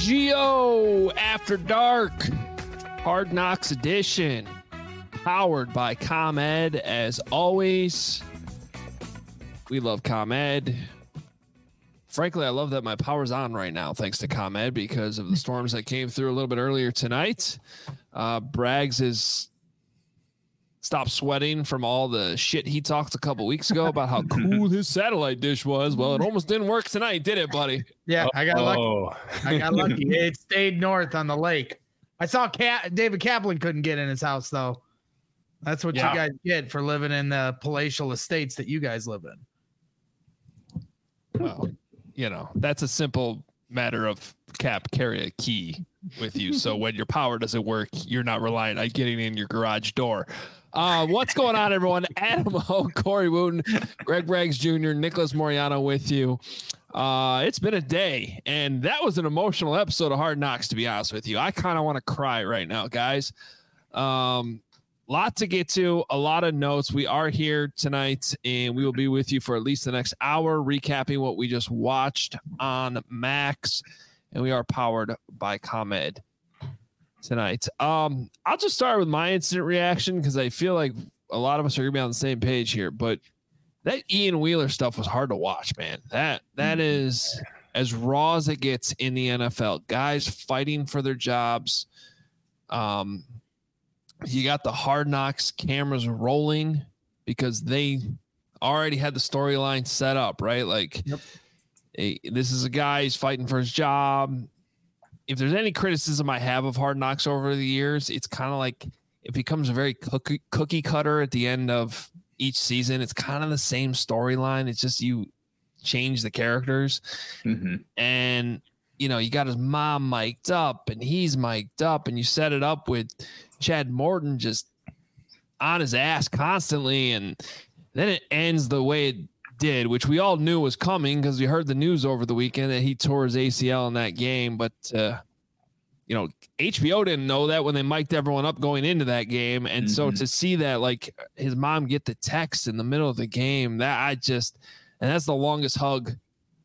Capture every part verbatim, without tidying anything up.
Geo After Dark, Hard Knocks edition, powered by ComEd. As always, we love ComEd. Frankly, I love that my power's on right now, thanks to ComEd, because of the storms that came through a little bit earlier tonight. Uh, Braggs is stopped sweating from all the shit he talked a couple weeks ago about how cool his satellite dish was. Well, it almost didn't work tonight, did it, buddy? Yeah, I got oh. lucky. I got lucky. It stayed north on the lake. I saw Cat David Kaplan couldn't get in his house, though. That's what yeah. you guys get for living in the palatial estates that you guys live in. Well, you know, that's a simple matter of Cap, carry a key with you. So when your power doesn't work, you're not relying on getting in your garage door. Uh, what's going on, everyone? Adam O, Corey Wooten, Greg Braggs Junior, Nicholas Moriano with you. Uh, it's been a day, and that was an emotional episode of Hard Knocks, to be honest with you. I kind of want to cry right now, guys. Um, lot to get to, a lot of notes. We are here tonight, and we will be with you for at least the next hour, recapping what we just watched on Max, and we are powered by ComEd tonight. Um, I'll just start with my instant reaction because I feel like a lot of us are gonna be on the same page here. But that Ian Wheeler stuff was hard to watch, man. That that is as raw as it gets in the N F L. Guys fighting for their jobs. Um, you got the Hard Knocks cameras rolling because they already had the storyline set up, right? Like, yep. a, this is a guy who's fighting for his job. If there's any criticism I have of Hard Knocks over the years, it's kind of like it becomes a very cookie, cookie cutter at the end of each season. It's kind of the same storyline. It's just you change the characters. Mm-hmm. And, you know, you got his mom mic'd up and he's mic'd up, and you set it up with Chad Morton just on his ass constantly. And then it ends the way it did, which we all knew was coming because we heard the news over the weekend that he tore his A C L in that game. But, uh, you know, H B O didn't know that when they mic'd everyone up going into that game. And mm-hmm. so to see that, like, his mom get the text in the middle of the game, that I just, and that's the longest hug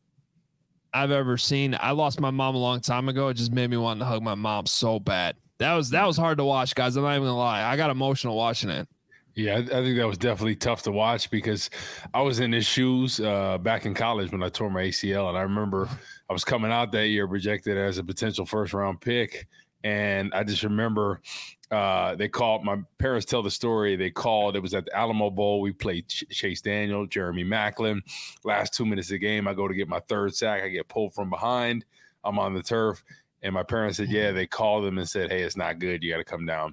I've ever seen. I lost my mom a long time ago. It just made me want to hug my mom so bad. That was, that was hard to watch, guys. I'm not even gonna lie. I got emotional watching it. Yeah, I, I think that was definitely tough to watch because I was in his shoes uh, back in college when I tore my A C L. And I remember I was coming out that year projected as a potential first round pick. And I just remember uh, they called, my parents tell the story. They called, it was at the Alamo Bowl. We played Ch- Chase Daniel, Jeremy Maclin. Last two minutes of the game, I go to get my third sack. I get pulled from behind. I'm on the turf. And my parents said, yeah, they called them and said, hey, it's not good. You got to come down.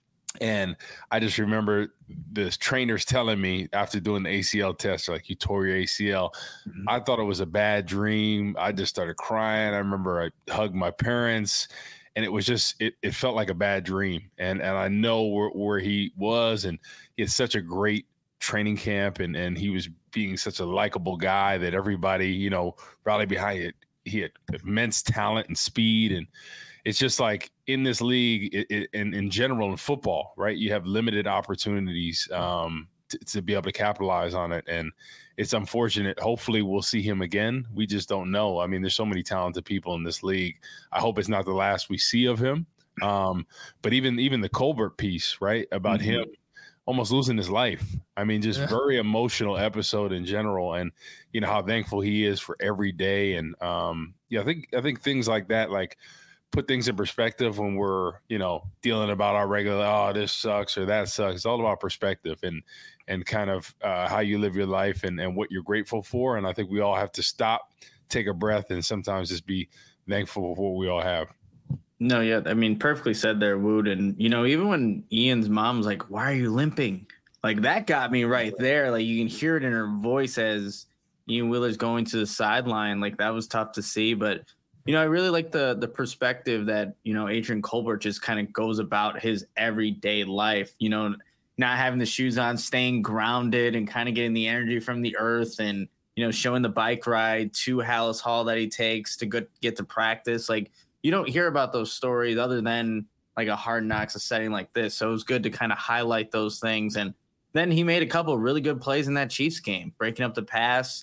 And I just remember the trainers telling me after doing the A C L test, like, you tore your A C L. Mm-hmm. I thought it was a bad dream. I just started crying. I remember I hugged my parents, and it was just, it, it felt like a bad dream. And and I know where, where he was, and he had such a great training camp, and, and he was being such a likable guy that everybody, you know, rallied behind it. He had immense talent and speed, and it's just like in this league it, it, and in general in football, right? You have limited opportunities um, to, to be able to capitalize on it. And it's unfortunate. Hopefully we'll see him again. We just don't know. I mean, there's so many talented people in this league. I hope it's not the last we see of him. Um, but even, even the Colbert piece, right, about mm-hmm. him almost losing his life. I mean, just yeah. very emotional episode in general. And, you know, how thankful he is for every day. And um, yeah, I think, I think things like that, like, put things in perspective when we're, you know, dealing about our regular, oh, this sucks or that sucks. It's all about perspective and, and kind of uh, how you live your life and, and what you're grateful for. And I think we all have to stop, take a breath, and sometimes just be thankful for what we all have. No, yeah. I mean, perfectly said there, Wood. And, you know, even when Ian's mom's like, why are you limping? Like, that got me right there. Like, you can hear it in her voice as Ian Wheeler's going to the sideline. Like, that was tough to see, but you know, I really like the the perspective that, you know, Adrian Colbert just kind of goes about his everyday life, you know, not having the shoes on, staying grounded and kind of getting the energy from the earth and, you know, showing the bike ride to Hallis Hall that he takes to get, get to practice. Like, you don't hear about those stories other than like a Hard Knocks, a setting like this. So it was good to kind of highlight those things. And then he made a couple of really good plays in that Chiefs game, breaking up the pass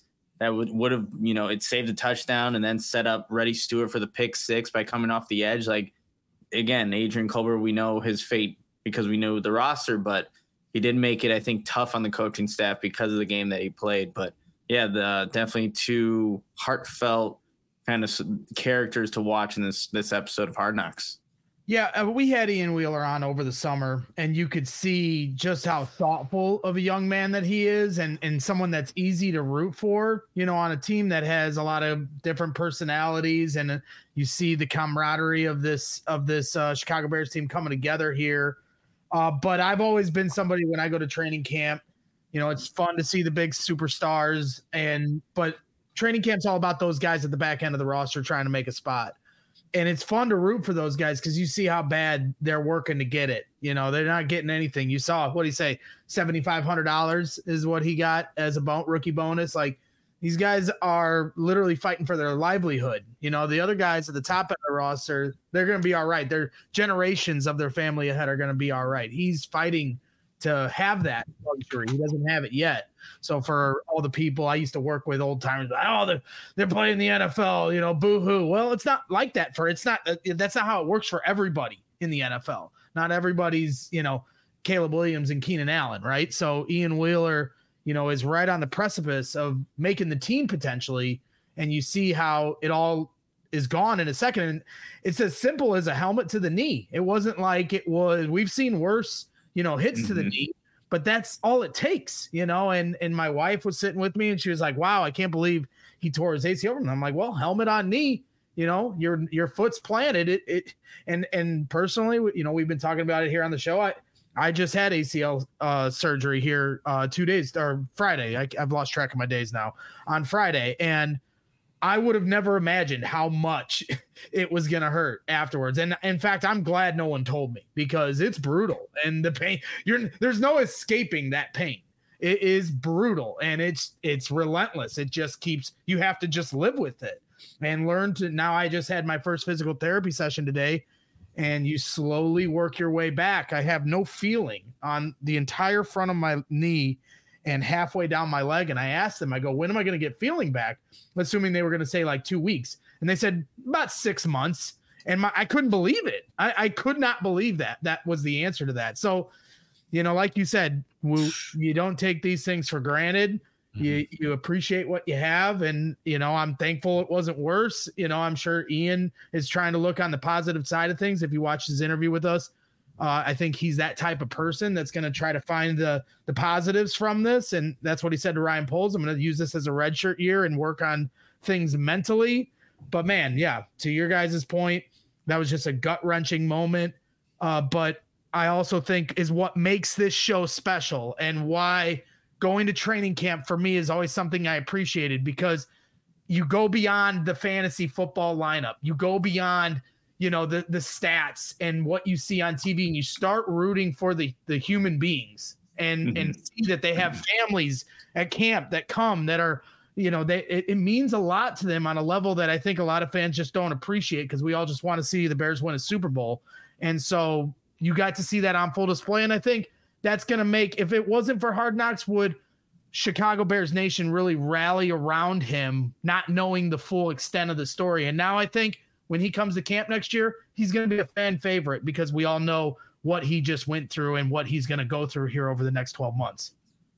that would would have, you know, it saved a touchdown and then set up Reddy Stewart for the pick six by coming off the edge. Like, again, Adrian Colbert, we know his fate because we knew the roster, but he did make it, I think, tough on the coaching staff because of the game that he played. But yeah, the definitely two heartfelt kind of characters to watch in this this episode of Hard Knocks. Yeah, uh, we had Ian Wheeler on over the summer, and you could see just how thoughtful of a young man that he is, and and someone that's easy to root for, you know, on a team that has a lot of different personalities, and uh, you see the camaraderie of this of this uh, Chicago Bears team coming together here. Uh, but I've always been somebody when I go to training camp, you know, it's fun to see the big superstars, and but training camp's all about those guys at the back end of the roster trying to make a spot. And it's fun to root for those guys because you see how bad they're working to get it. You know, they're not getting anything. You saw, what do you say, seven thousand five hundred dollars is what he got as a bon- rookie bonus. Like, these guys are literally fighting for their livelihood. You know, the other guys at the top of the roster, they're going to be all right. Their generations of their family ahead are going to be all right. He's fighting to have that luxury. He doesn't have it yet. So for all the people I used to work with, old timers, like, oh, they're, they're playing the N F L, you know, boo-hoo. Well, it's not like that for, it's not, that's not how it works for everybody in the N F L. Not everybody's, you know, Caleb Williams and Keenan Allen, right? So Ian Wheeler, you know, is right on the precipice of making the team potentially. And you see how it all is gone in a second. And it's as simple as a helmet to the knee. It wasn't like it was, we've seen worse, you know, hits mm-hmm. to the knee, but that's all it takes, you know. And and my wife was sitting with me and she was like, wow, I can't believe he tore his A C L. And I'm like, well, helmet on knee, you know, your your foot's planted. It it and and personally, you know, we've been talking about it here on the show. I I just had A C L uh, surgery here uh, two days or Friday. I, I've lost track of my days now. On Friday, and I would have never imagined how much it was going to hurt afterwards. And in fact, I'm glad no one told me because it's brutal and the pain, you're there's no escaping that pain. It is brutal and it's, it's relentless. It just keeps, you have to just live with it and learn to, now I just had my first physical therapy session today and you slowly work your way back. I have no feeling on the entire front of my knee and halfway down my leg. And I asked them, I go, when am I going to get feeling back? Assuming they were going to say like two weeks. And they said about six months. And my, I couldn't believe it. I, I could not believe that. That was the answer to that. So, you know, like you said, we, you don't take these things for granted. Mm-hmm. You, you appreciate what you have. And, you know, I'm thankful it wasn't worse. You know, I'm sure Ian is trying to look on the positive side of things. If you watch his interview with us, Uh, I think he's that type of person that's going to try to find the the positives from this. And that's what he said to Ryan Poles. I'm going to use this as a redshirt year and work on things mentally. But, man, yeah, to your guys' point, that was just a gut-wrenching moment. Uh, but I also think is what makes this show special and why going to training camp for me is always something I appreciated because you go beyond the fantasy football lineup. You go beyond – you know, the, the stats and what you see on T V, and you start rooting for the, the human beings and, mm-hmm. and see that they have families at camp that come that are, you know, they, it, it means a lot to them on a level that I think a lot of fans just don't appreciate because we all just want to see the Bears win a Super Bowl. And so you got to see that on full display. And I think that's going to make, if it wasn't for Hard Knocks, would Chicago Bears Nation really rally around him, not knowing the full extent of the story. And now I think, when he comes to camp next year, he's going to be a fan favorite because we all know what he just went through and what he's going to go through here over the next twelve months.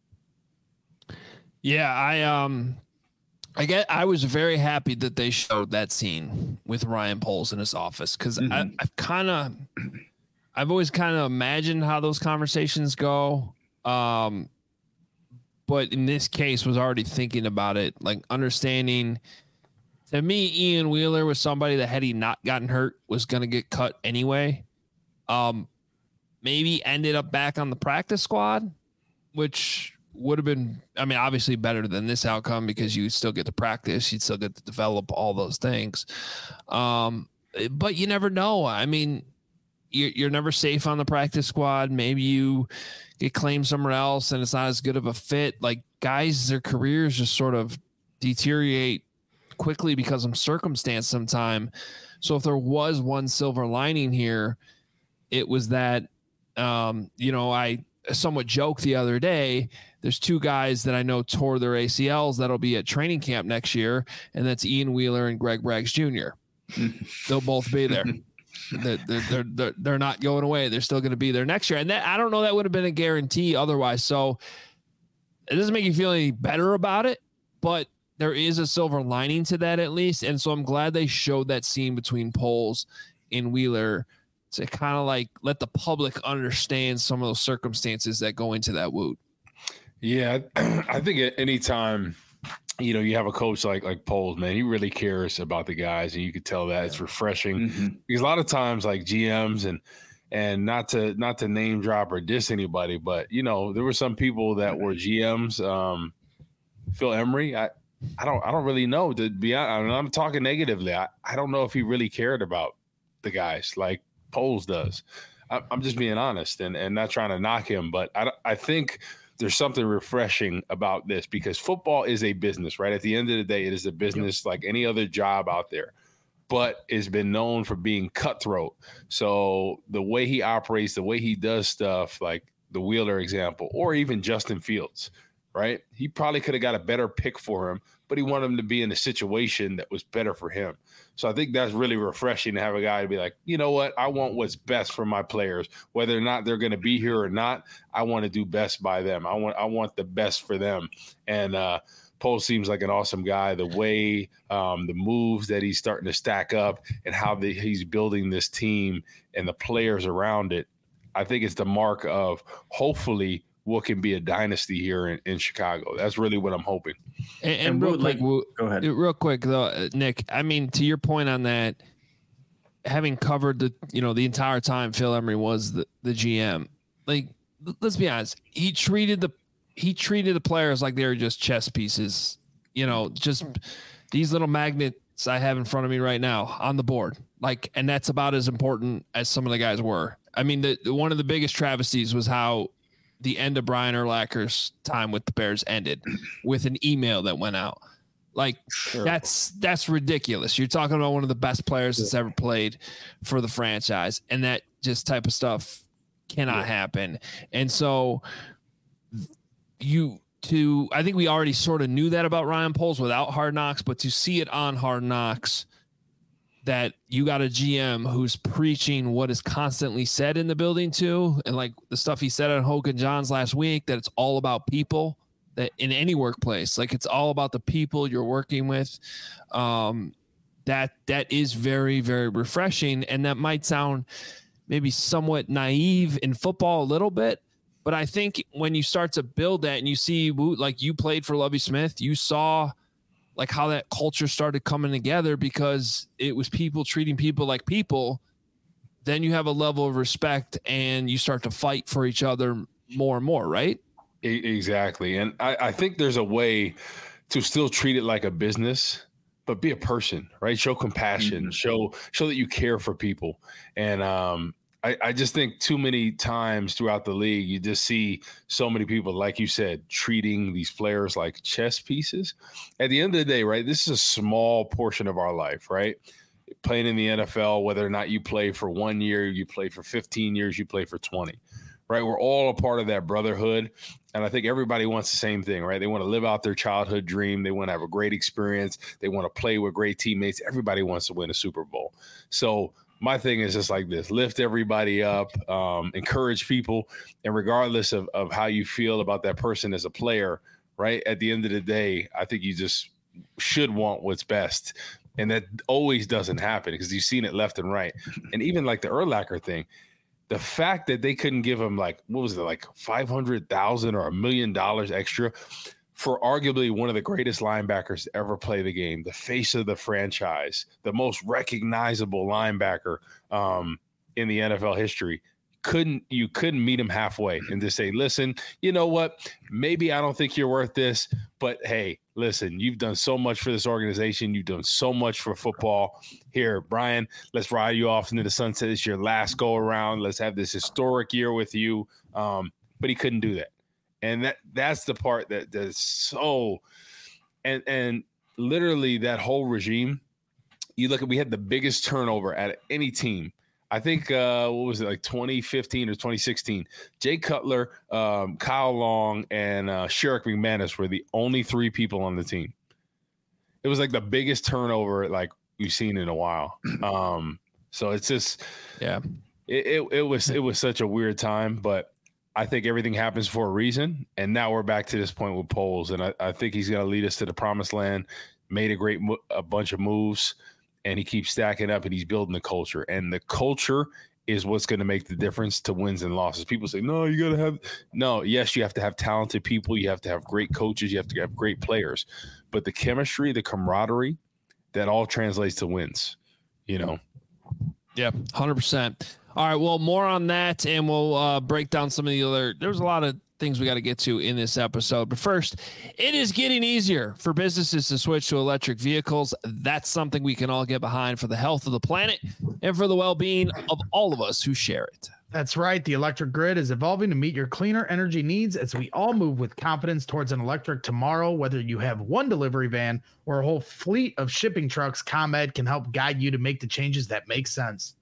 Yeah, I um, I get. I was very happy that they showed that scene with Ryan Poles in his office because mm-hmm. I, I've kind of, I've always kind of imagined how those conversations go. Um, but in this case, was already thinking about it, like understanding. To me, Ian Wheeler was somebody that had he not gotten hurt was going to get cut anyway. Um, maybe ended up back on the practice squad, which would have been, I mean, obviously better than this outcome because you still get to practice. You'd still get to develop all those things. Um, but you never know. I mean, you're, you're never safe on the practice squad. Maybe you get claimed somewhere else and it's not as good of a fit. Like guys, their careers just sort of deteriorate quickly because of circumstance sometime. So if there was one silver lining here, it was that, um, you know, I, a somewhat joke the other day. There's two guys that I know tore their A C Ls that'll be at training camp next year, and that's Ian Wheeler and Greg Braggs Junior They'll both be there. They're, they're, they're, they're not going away. They're still going to be there next year. And that, I don't know, that would have been a guarantee otherwise. So it doesn't make you feel any better about it, but there is a silver lining to that at least. And so I'm glad they showed that scene between Poles and Wheeler to kind of like let the public understand some of those circumstances that go into that woot. Yeah, I think at any time, you know, you have a coach like like Poles, man, he really cares about the guys, and you could tell that. It's refreshing mm-hmm. because a lot of times, like G Ms and and not to not to name drop or diss anybody, but you know, there were some people that were G Ms. Um, Phil Emery, I I don't I don't really know, to be honest. I mean, I'm talking negatively. I, I don't know if he really cared about the guys like Poles does. I, I'm just being honest and and not trying to knock him, but I I think there's something refreshing about this because football is a business, right? At the end of the day, it is a business like any other job out there, but it's been known for being cutthroat. So the way he operates, the way he does stuff, like the Wheeler example, or even Justin Fields, right? He probably could have got a better pick for him, but he wanted him to be in a situation that was better for him. So I think that's really refreshing to have a guy to be like, you know what, I want what's best for my players, whether or not they're going to be here or not. I want to do best by them. I want, I want the best for them. And uh, Poles seems like an awesome guy. The way, um, the moves that he's starting to stack up and how the, he's building this team and the players around it, I think it's the mark of hopefully what can be a dynasty here in, in Chicago. That's really what I'm hoping. And, and, and real quick, like, go ahead. Real quick though, Nick. I mean, to your point on that, having covered the you know the entire time Phil Emery was the, the G M. Like, let's be honest, he treated the he treated the players like they were just chess pieces. You know, just these little magnets I have in front of me right now on the board. Like, and that's about as important as some of the guys were. I mean, the, the one of the biggest travesties was how the end of Brian Urlacher's time with the Bears ended with an email that went out. Like sure. that's, that's ridiculous. You're talking about one of the best players that's ever played for the franchise. And that just type of stuff cannot yeah. happen. And so you to, I think we already sort of knew that about Ryan Poles without Hard Knocks, but to see it on Hard Knocks, that you got a G M who's preaching what is constantly said in the building too. And like the stuff he said on Hogan Johns last week, that it's all about people, that in any workplace, like it's all about the people you're working with. Um, that, that is very, very refreshing. And that might sound maybe somewhat naive in football a little bit, but I think when you start to build that and you see, like you played for Lovie Smith, you saw like how that culture started coming together because it was people treating people like people. Then you have a level of respect and you start to fight for each other more and more, right? Exactly. And I, I think there's a way to still treat it like a business, but be a person, right? Show compassion, mm-hmm. show, show that you care for people. And, um, I, I just think too many times throughout the league, you just see so many people, like you said, treating these players like chess pieces. At the end of the day, right, this is a small portion of our life, right? Playing in the N F L, whether or not you play for one year, you play for fifteen years, you play for twenty, right? We're all a part of that brotherhood. And I think everybody wants the same thing, right? They want to live out their childhood dream. They want to have a great experience. They want to play with great teammates. Everybody wants to win a Super Bowl. So my thing is just like this: lift everybody up, um, encourage people. And regardless of, of how you feel about that person as a player, right, at the end of the day, I think you just should want what's best. And that always doesn't happen because you've seen it left and right. And even like the Urlacher thing, the fact that they couldn't give him like, what was it, like five hundred thousand dollars or a million dollars extra for arguably one of the greatest linebackers to ever play the game, the face of the franchise, the most recognizable linebacker um, in the N F L history. Couldn't you couldn't meet him halfway and just say, listen, you know what? Maybe I don't think you're worth this, but hey, listen, you've done so much for this organization. You've done so much for football. Here, Brian, let's ride you off into the sunset. It's your last go around. Let's have this historic year with you. Um, but he couldn't do that. And that that's the part that that's so and and literally that whole regime, you look at, we had the biggest turnover at any team. I think uh, what was it, like twenty fifteen or twenty sixteen? Jay Cutler, um, Kyle Long, and uh, Sherrick McManus were the only three people on the team. It was like the biggest turnover like we've seen in a while. Um, so it's just, yeah, it, it it was it was such a weird time, but I think everything happens for a reason. And now we're back to this point with Poles, and I, I think he's going to lead us to the promised land. Made a great mo- a bunch of moves. And he keeps stacking up, and he's building the culture. And the culture is what's going to make the difference to wins and losses. People say, no, you got to have – no, yes, you have to have talented people. You have to have great coaches. You have to have great players. But the chemistry, the camaraderie, that all translates to wins, you know? Yeah, one hundred percent. All right, well, more on that, and we'll uh, break down some of the other – there's a lot of things we got to get to in this episode. But first, it is getting easier for businesses to switch to electric vehicles. That's something we can all get behind for the health of the planet and for the well-being of all of us who share it. That's right. The electric grid is evolving to meet your cleaner energy needs as we all move with confidence towards an electric tomorrow. Whether you have one delivery van or a whole fleet of shipping trucks, ComEd can help guide you to make the changes that make sense.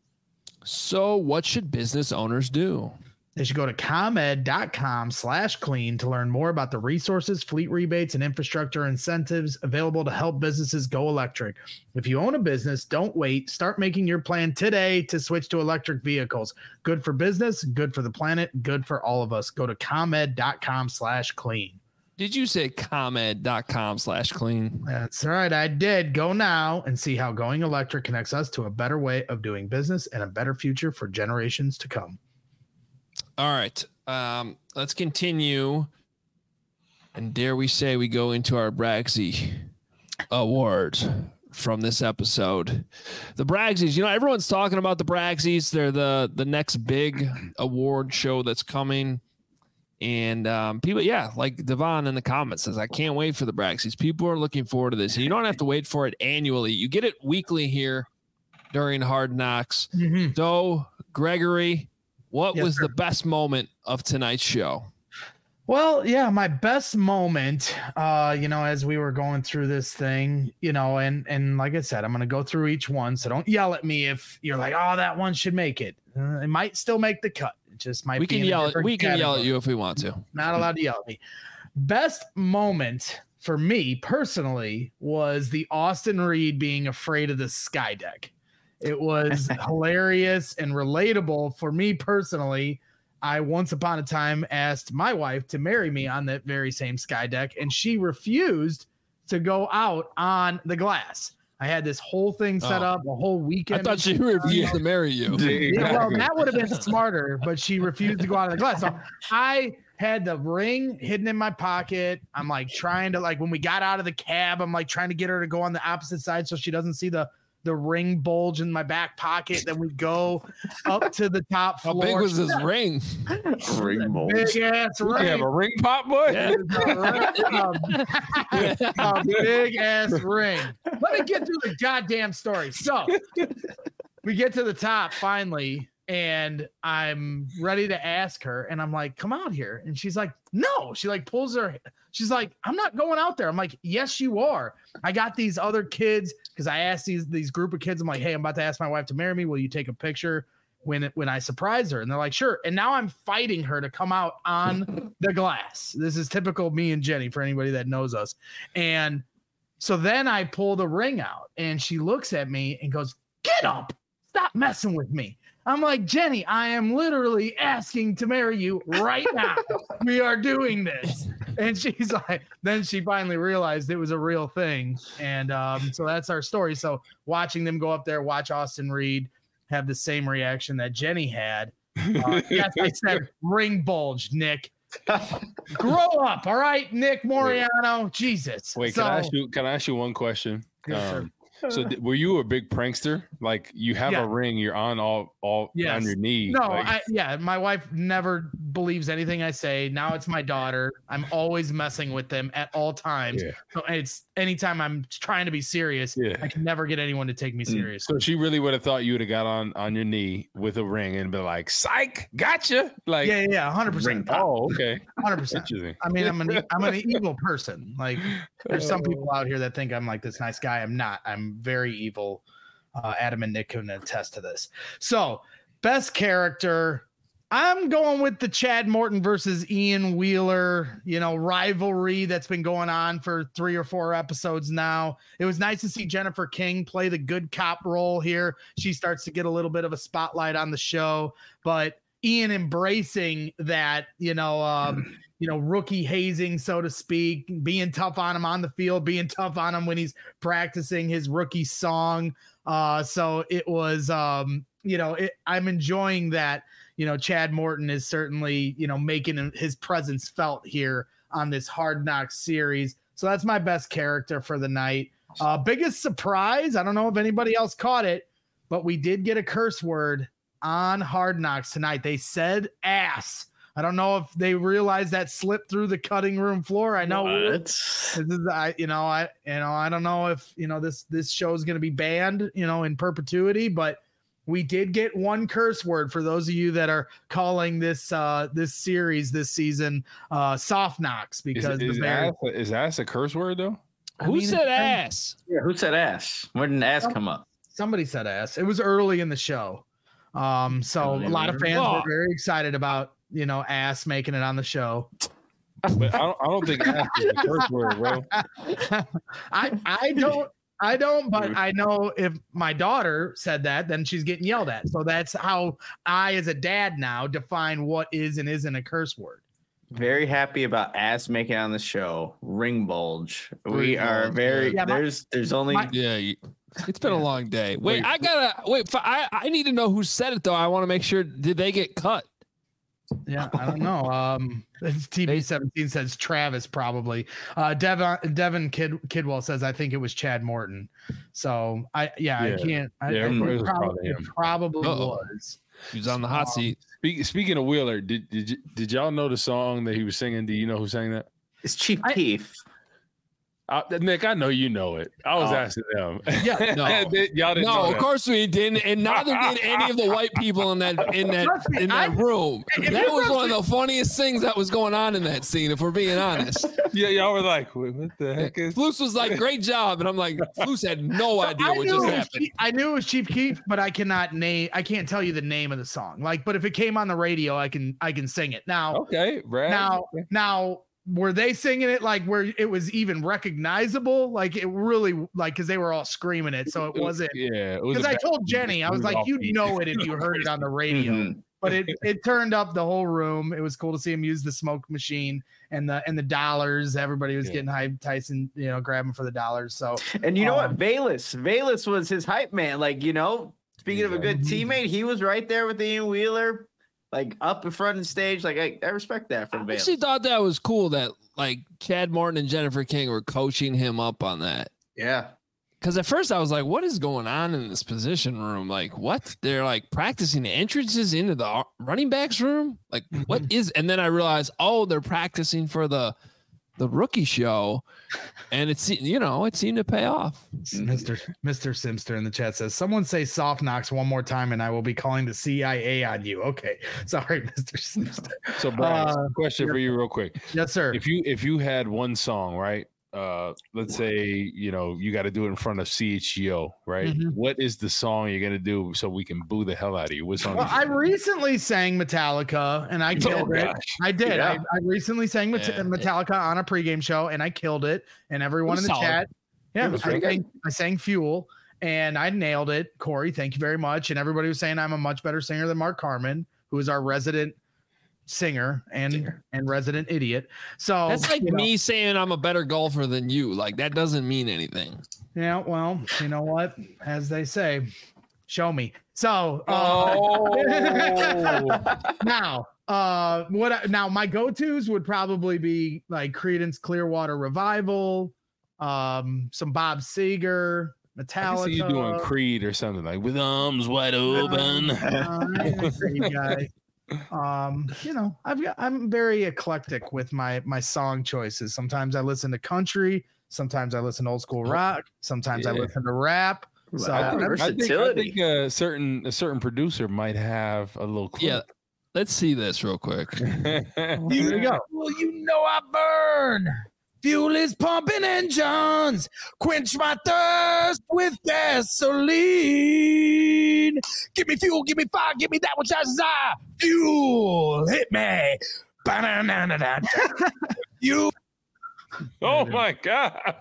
So what should business owners do? They should go to ComEd.com slash clean to learn more about the resources, fleet rebates, and infrastructure incentives available to help businesses go electric. If you own a business, don't wait. Start making your plan today to switch to electric vehicles. Good for business, good for the planet, good for all of us. Go to ComEd.com slash clean. Did you say ComEd.com slash clean? That's right. I did. Go now and see how going electric connects us to a better way of doing business and a better future for generations to come. All right, um, let's continue. And dare we say we go into our Bragsy Awards from this episode. The Bragsies, you know, everyone's talking about the Bragsies. They're the, the next big award show that's coming. And um, people, yeah, like Devon in the comments says, I can't wait for the Bragsies. People are looking forward to this. And you don't have to wait for it annually. You get it weekly here during Hard Knocks. Mm-hmm. So, Gregory, what yes, was sir. the best moment of tonight's show? Well, yeah, my best moment, uh, you know, as we were going through this thing, you know, and and like I said, I'm going to go through each one. So don't yell at me if you're like, oh, that one should make it. Uh, it might still make the cut. It just might we be can yell at, we can category. yell at you if we want to. Not allowed to yell at me. Best moment for me personally was the Austin Reed being afraid of the sky deck. It was hilarious and relatable for me personally. I once upon a time asked my wife to marry me on that very same sky deck, and she refused to go out on the glass. I had this whole thing set oh. up, a whole weekend. I thought she refused to marry you. Yeah, well, that would have been smarter, but she refused to go out on the glass. So I had the ring hidden in my pocket. I'm like trying to, like, when we got out of the cab, I'm like trying to get her to go on the opposite side so she doesn't see the the ring bulge in my back pocket. Then we go up to the top floor. How big was this ring? Ring bulge. Big ass ring. You have a ring pop, boy? Yeah. a, a big ass ring. Let me get through the goddamn story. So we get to the top finally, and I'm ready to ask her, and I'm like, come out here. And she's like, no. She like pulls her. She's like, I'm not going out there. I'm like, yes, you are. I got these other kids because I asked these these group of kids. I'm like, hey, I'm about to ask my wife to marry me. Will you take a picture when when I surprise her? And they're like, sure. And now I'm fighting her to come out on the glass. This is typical me and Jenny for anybody that knows us. And so then I pull the ring out, and she looks at me and goes, get up. Stop messing with me. I'm like, Jenny, I am literally asking to marry you right now. We are doing this. And she's like, then she finally realized it was a real thing. And um, so that's our story. So watching them go up there, watch Austin Reed have the same reaction that Jenny had. Uh, yes, I said ring bulge, Nick. Grow up, all right, Nick Moriano. Jesus. Wait, so, can I ask you? Can I ask you one question? Yes, um, So th- were you a big prankster? Like you have yeah. a ring, you're on all all yes. on your knee. No, like- I, yeah, my wife never believes anything I say. Now it's my daughter. I'm always messing with them at all times. Yeah. So it's anytime I'm trying to be serious, Yeah. I can never get anyone to take me serious. So she really would have thought you would have got on on your knee with a ring and been like, "Psych, gotcha!" Like, yeah, yeah, one hundred percent. Oh, okay, one hundred percent. I mean, I'm an I'm an evil person. Like, there's some people out here that think I'm like this nice guy. I'm not. I'm very evil. Uh, Adam and Nick can attest to this. So Best character. I'm going with the Chad Morton versus Ian Wheeler, you know, rivalry that's been going on for three or four episodes now. It was nice to see Jennifer King play the good cop role here. She starts to get a little bit of a spotlight on the show, but Ian embracing that, you know, um, you know, rookie hazing, so to speak, being tough on him on the field, being tough on him when he's practicing his rookie song. Uh, so it was, um, you know, it, I'm enjoying that. You know, Chad Morton is certainly, you know, making his presence felt here on this Hard Knocks series. So that's my best character for the night. Uh, biggest surprise, I don't know if anybody else caught it, but we did get a curse word on Hard Knocks tonight. They said ass. I don't know if they realized that slipped through the cutting room floor. I know what? This is, I, you know, I, you know, I don't know if, you know, this, this show is going to be banned, you know, in perpetuity, but we did get one curse word for those of you that are calling this uh, this series this season uh, soft knocks because is, is, the Bears, ass, is ass a curse word though? I Who mean, said ass? Yeah, who said ass? Where did ass come up? Somebody said ass. It was early in the show, um, so a lot of fans Oh. were very excited about you know ass making it on the show. But I don't, I don't think ass is a curse word, bro. I I don't. I don't, but I know if my daughter said that, then she's getting yelled at. So that's how I, as a dad now, define what is and isn't a curse word. Very happy about ass making it on the show. Ring bulge. We Ring are bulge, very. yeah. There's there's only. My- Yeah, you- it's been a long day. Wait, Wait. I gotta wait. For, I I need to know who said it though. I want to make sure. Did they get cut? Yeah, I don't know. Um, T V seventeen says Travis probably. Uh, Devon Devin Kid Kidwell says I think it was Chad Morton. So I yeah, Yeah. I can't. I, Yeah, I, it was it probably, probably it him. probably Uh-oh. was. He was on the hot Um, seat. Speak, speaking of Wheeler, did did you, did y'all know the song that he was singing? Do you know who sang that? It's Chief I- Keef. Uh, Nick, I know you know it. I was Oh. asking them. Yeah, no. They- y'all didn't know No, of that. course we didn't, and neither did any of the white people in that in that Trust me, in that I- room. if That you was were- one of the funniest things that was going on in that scene. If we're being honest, Yeah, y'all were like, "Wait, what the heck is?" Floos was like, "Great job," and I'm like, Floos had no idea I what knew, just it was happened. Chief, I knew it was Chief Keef, but I cannot name. I can't tell you the name of the song. Like, but if it came on the radio, I can I can sing it now. Okay, Brad. Now, now, were they singing it like where it was even recognizable? Like it really, like because they were all screaming it, so it wasn't. Yeah, it was. Because a I bad- told Jenny, I was like, off "You beat. know it if you heard it on the radio." Mhm. But it it turned up the whole room. It was cool to see him use the smoke machine and the and the dollars. Everybody was Yeah. getting hyped. Tyson, you know, grabbing for the dollars. So And you know Um, what? Valus. Valus was his hype man. Like, you know, speaking of a good teammate, he was right there with Ian Wheeler, like up in front of the stage. Like, I, I respect that from I Valus. actually thought that was cool that like Chad Morton and Jennifer King were coaching him up on that. Yeah. Because at first I was like, what is going on in this position room? Like, what? They're like practicing the entrances into the ar- running backs room? Like, what is? And then I realized, oh, they're practicing for the the rookie show. And it's, you know, it seemed to pay off. Mister Mister Simster in the chat says, "Someone say soft knocks one more time, and I will be calling the C I A on you." Okay, sorry, Mister Simster. So, Brad, Uh, question for you, real quick. Yes, sir. If you if you had one song, right? Uh, let's say you know you got to do it in front of C H G O, right? Mhm. What is the song you're gonna do so we can boo the hell out of you? What song? Well, is I it? recently sang Metallica, and I Oh, killed it. gosh. I did. Yeah. I, I recently sang Met- Yeah. Metallica on a pregame show, and I killed it. And everyone in was the solid. chat, yeah, It was I pretty sang, I sang Fuel, and I nailed it. Corey, thank you very much. And everybody was saying I'm a much better singer than Mark Carmen, who is our resident singer and Singer. and resident idiot. So That's like you know, me saying I'm a better golfer than you. Like, that doesn't mean anything. Yeah, well, you know what? As they say, show me. So uh, Oh, now, uh, what? I, now my go-tos would probably be like Creedence Clearwater Revival, um, some Bob Seger, I Metallica. can see you doing Creed or something like with arms wide open. Uh, I ain't a Creed guy. Um, you know, I've got I'm very eclectic with my my song choices. Sometimes I listen to country, sometimes I listen to old school rock, sometimes I Yeah. listen to rap. So Wow. I think, I think, I Versatility. think a certain a certain producer might have a little Yeah. clip. Let's see this real quick. here we go. Well, you know I burn. Fuel is pumping engines. Quench my thirst with gasoline. Give me fuel, give me fire, give me that which I desire. Fuel, hit me. Ba-na-na-na-na. You. Oh my God.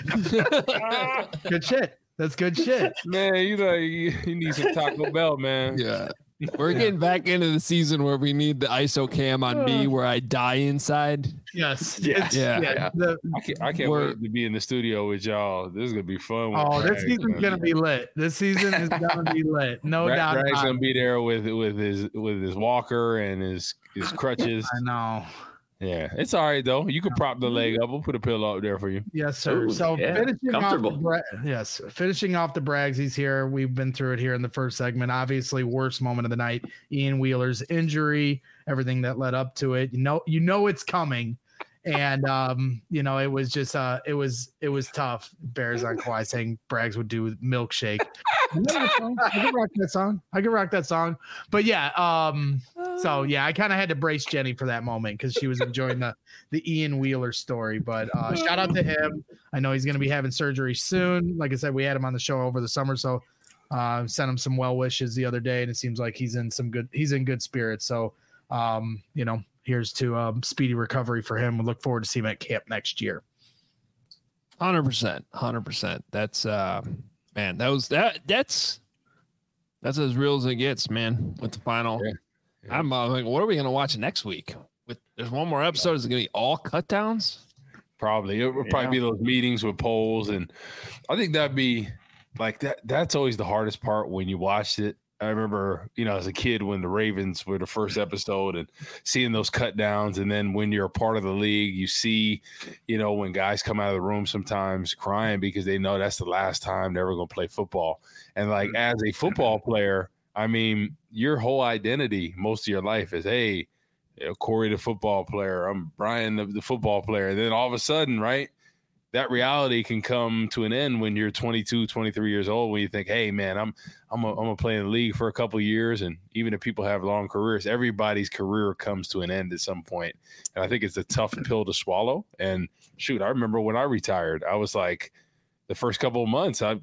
Good shit. That's good shit. Man, you know, you, you need some Taco Bell, man. Yeah. We're getting back into the season where we need the I S O cam on me where I die inside. Yes. Yes. Yeah. Yeah. The, I can't, I can't We're- wait to be in the studio with y'all. This is gonna be fun. with oh, this Bragg. season's gonna be lit. This season is gonna be lit. No Bragg- doubt. Bragg's about gonna it. be there with with his with his walker and his his crutches. I know. Yeah, it's all right though. You can prop the leg up. We'll put a pillow up there for you. Yes, sir. Ooh, so yeah, finishing off the comfortable. Bra- yes, finishing off the Braggs. He's here. We've been through it here in the first segment. Obviously, worst moment of the night. Ian Wheeler's injury, everything that led up to it. You know, you know it's coming, and um, you know it was just uh, it was it was tough. Bears on Kawhi saying Braggs would do milkshake. You know that song? I can rock that song. I can rock that song. But yeah, um, so yeah, I kind of had to brace Jenny for that moment because she was enjoying the the Ian Wheeler story. But uh, shout out to him. I know he's going to be having surgery soon. Like I said, we had him on the show over the summer, so uh, sent him some well wishes the other day, and it seems like he's in some good he's in good spirits. So um, you know, here's to um, speedy recovery for him. We look forward to seeing him at camp next year. Hundred percent, hundred percent. That's uh, man. That was that. That's that's as real as it gets, man. With the final, Yeah. Yeah. I'm uh, like, what are we gonna watch next week? With there's one more episode. Is it gonna be all cut downs? Probably it would probably be those meetings with polls, and I think that'd be like that. That's always the hardest part when you watched it. I remember, you know, as a kid when the Ravens were the first episode and seeing those cut downs. And then when you're a part of the league, you see, you know, when guys come out of the room sometimes crying because they know that's the last time they're ever going to play football. And like as a football player, I mean, your whole identity most of your life is, hey, you know, Corey, the football player, I'm Brian, the, the football player. And then all of a sudden, right, that reality can come to an end when you're twenty-two, twenty-three years old, when you think, hey, man, I'm I'm a, I'm gonna play in the league for a couple of years. And even if people have long careers, everybody's career comes to an end at some point. And I think it's a tough pill to swallow. And shoot, I remember when I retired, I was like, the first couple of months, I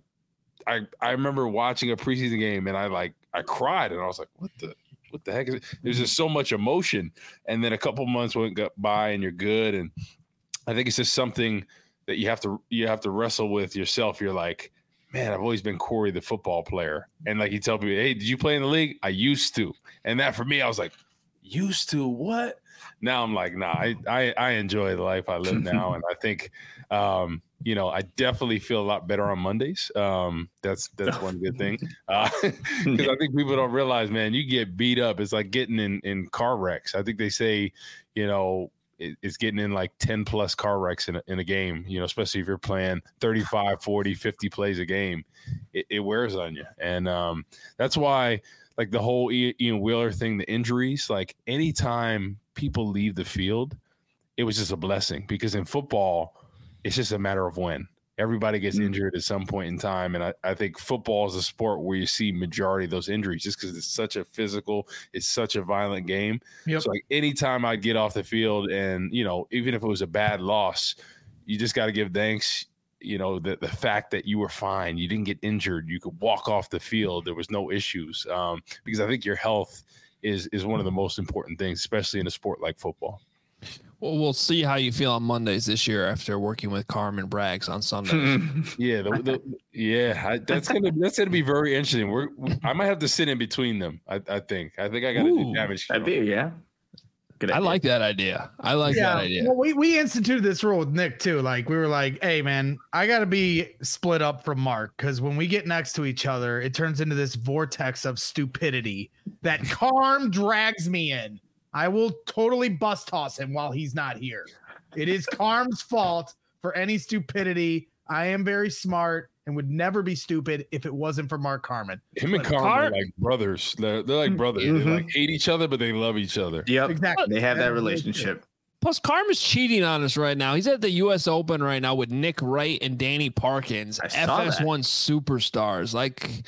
I I remember watching a preseason game and I like I cried and I was like, what the what the heck is it? There's just so much emotion. And then a couple of months went by and you're good. And I think it's just something that you have to you have to wrestle with yourself. You're like, man, I've always been Corey, the football player. And like you tell people, hey, did you play in the league? I used to. And that for me, I was like, used to what? Now I'm like, nah, I I, I enjoy the life I live now. And I think, um, you know, I definitely feel a lot better on Mondays. Um, that's that's one good thing. Because uh, I think people don't realize, man, you get beat up. It's like getting in, in car wrecks. I think they say, you know, it's getting in like ten plus car wrecks in a, in a game, you know, especially if you're playing thirty-five, forty, fifty plays a game, it, it wears on you. And um, that's why like the whole Ian Wheeler thing, the injuries, like anytime people leave the field, it was just a blessing because in football, it's just a matter of when. Everybody gets mm-hmm. injured at some point in time. And I, I think football is a sport where you see majority of those injuries just because it's such a physical, it's such a violent game. Yep. So like anytime I'd get off the field and, you know, even if it was a bad loss, you just got to give thanks, you know, the, the fact that you were fine. You didn't get injured. You could walk off the field. There was no issues um, because I think your health is, is one of the most important things, especially in a sport like football. Well, we'll see how you feel on Mondays this year after working with Carmen Braggs on Sundays. yeah, the, the, yeah, I, that's gonna that's gonna be very interesting. We're I might have to sit in between them. I, I think I think I got to do damage. That'd be yeah. Good I like that idea. I like yeah, that idea. Well, we we instituted this rule with Nick too. Like we were like, hey man, I got to be split up from Mark because when we get next to each other, it turns into this vortex of stupidity that Carm drags me in. I will totally bus toss him while he's not here. It is Carm's fault for any stupidity. I am very smart and would never be stupid if it wasn't for Mark Carman. Him and Carm are like brothers. They're, they're like brothers. Mm-hmm. They like hate each other, but they love each other. Yep, exactly. They have that relationship. Plus, Carm is cheating on us right now. He's at the U S Open right now with Nick Wright and Danny Parkins, F S one superstars. Like,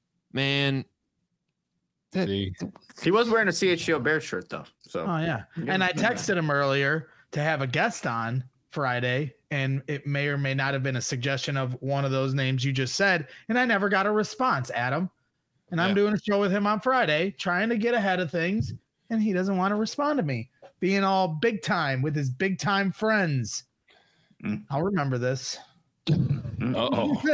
man. That, he was wearing a C H G O Bears shirt though. So oh yeah, and I texted him earlier to have a guest on Friday, and it may or may not have been a suggestion of one of those names you just said, and I never got a response, Adam. And I'm yeah. doing a show with him on Friday, trying to get ahead of things, and he doesn't want to respond to me, being all big time with his big time friends. Mm. I'll remember this. Uh-oh.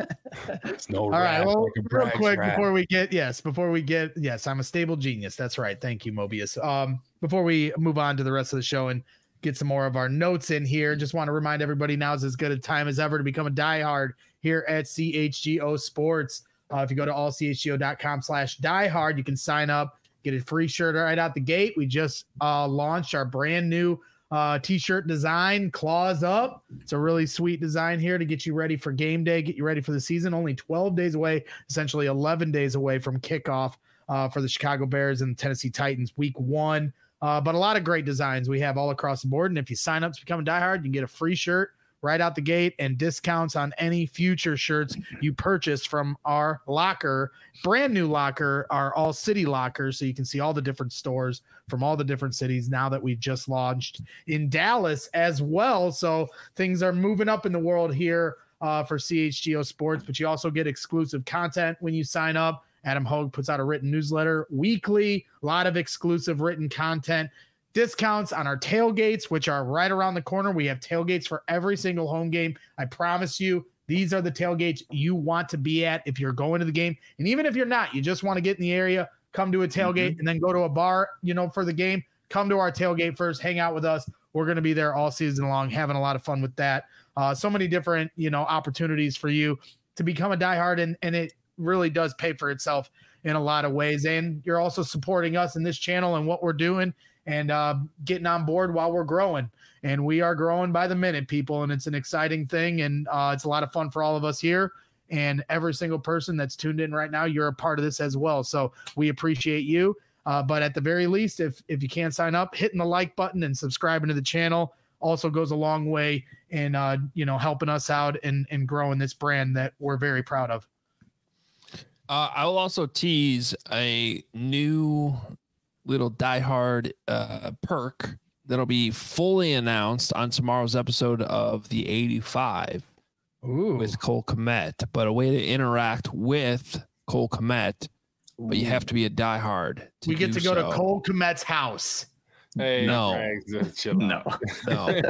no all right. Well, real quick rat. before we get yes, before we get yes, I'm a stable genius. That's right. Thank you, Mobius. Um, before we move on to the rest of the show and get some more of our notes in here, just want to remind everybody now is as good a time as ever to become a diehard here at C H G O Sports. Uh, if you go to all c h g o dot com slash diehard, you can sign up, get a free shirt right out the gate. We just uh, launched our brand new uh, t-shirt design, Claws Up. It's a really sweet design here to get you ready for game day, get you ready for the season. Only twelve days away, essentially eleven days away from kickoff uh, for the Chicago Bears and Tennessee Titans week one. Uh, but a lot of great designs we have all across the board. And if you sign up to become a diehard, you can get a free shirt right out the gate and discounts on any future shirts you purchase from our locker, brand new locker, our all city locker. So you can see all the different stores from all the different cities now that we just launched in Dallas as well. So things are moving up in the world here uh, for C H G O Sports, but you also get exclusive content when you sign up. Adam Hogue puts out a written newsletter weekly, a lot of exclusive written content. Discounts on our tailgates, which are right around the corner. We have tailgates for every single home game. I promise you, these are the tailgates you want to be at if you're going to the game. And even if you're not, you just want to get in the area, come to a tailgate, mm-hmm. and then go to a bar, you know, for the game. Come to our tailgate first, hang out with us. We're going to be there all season long, having a lot of fun with that. Uh, so many different, you know, opportunities for you to become a diehard, and, and it really does pay for itself in a lot of ways. And you're also supporting us in this channel and what we're doing, and uh, getting on board while we're growing. And we are growing by the minute, people, and it's an exciting thing, and uh, it's a lot of fun for all of us here. And every single person that's tuned in right now, you're a part of this as well. So we appreciate you. Uh, but at the very least, if if you can't sign up, hitting the like button and subscribing to the channel also goes a long way in uh, you know, helping us out and, and growing this brand that we're very proud of. Uh, I will also tease a new little diehard uh, perk that'll be fully announced on tomorrow's episode of the eighty-five Ooh. With Cole Kmet, but a way to interact with Cole Kmet, but you have to be a diehard. We get to go so. to Cole Kmet's house. Hey, no, no, no,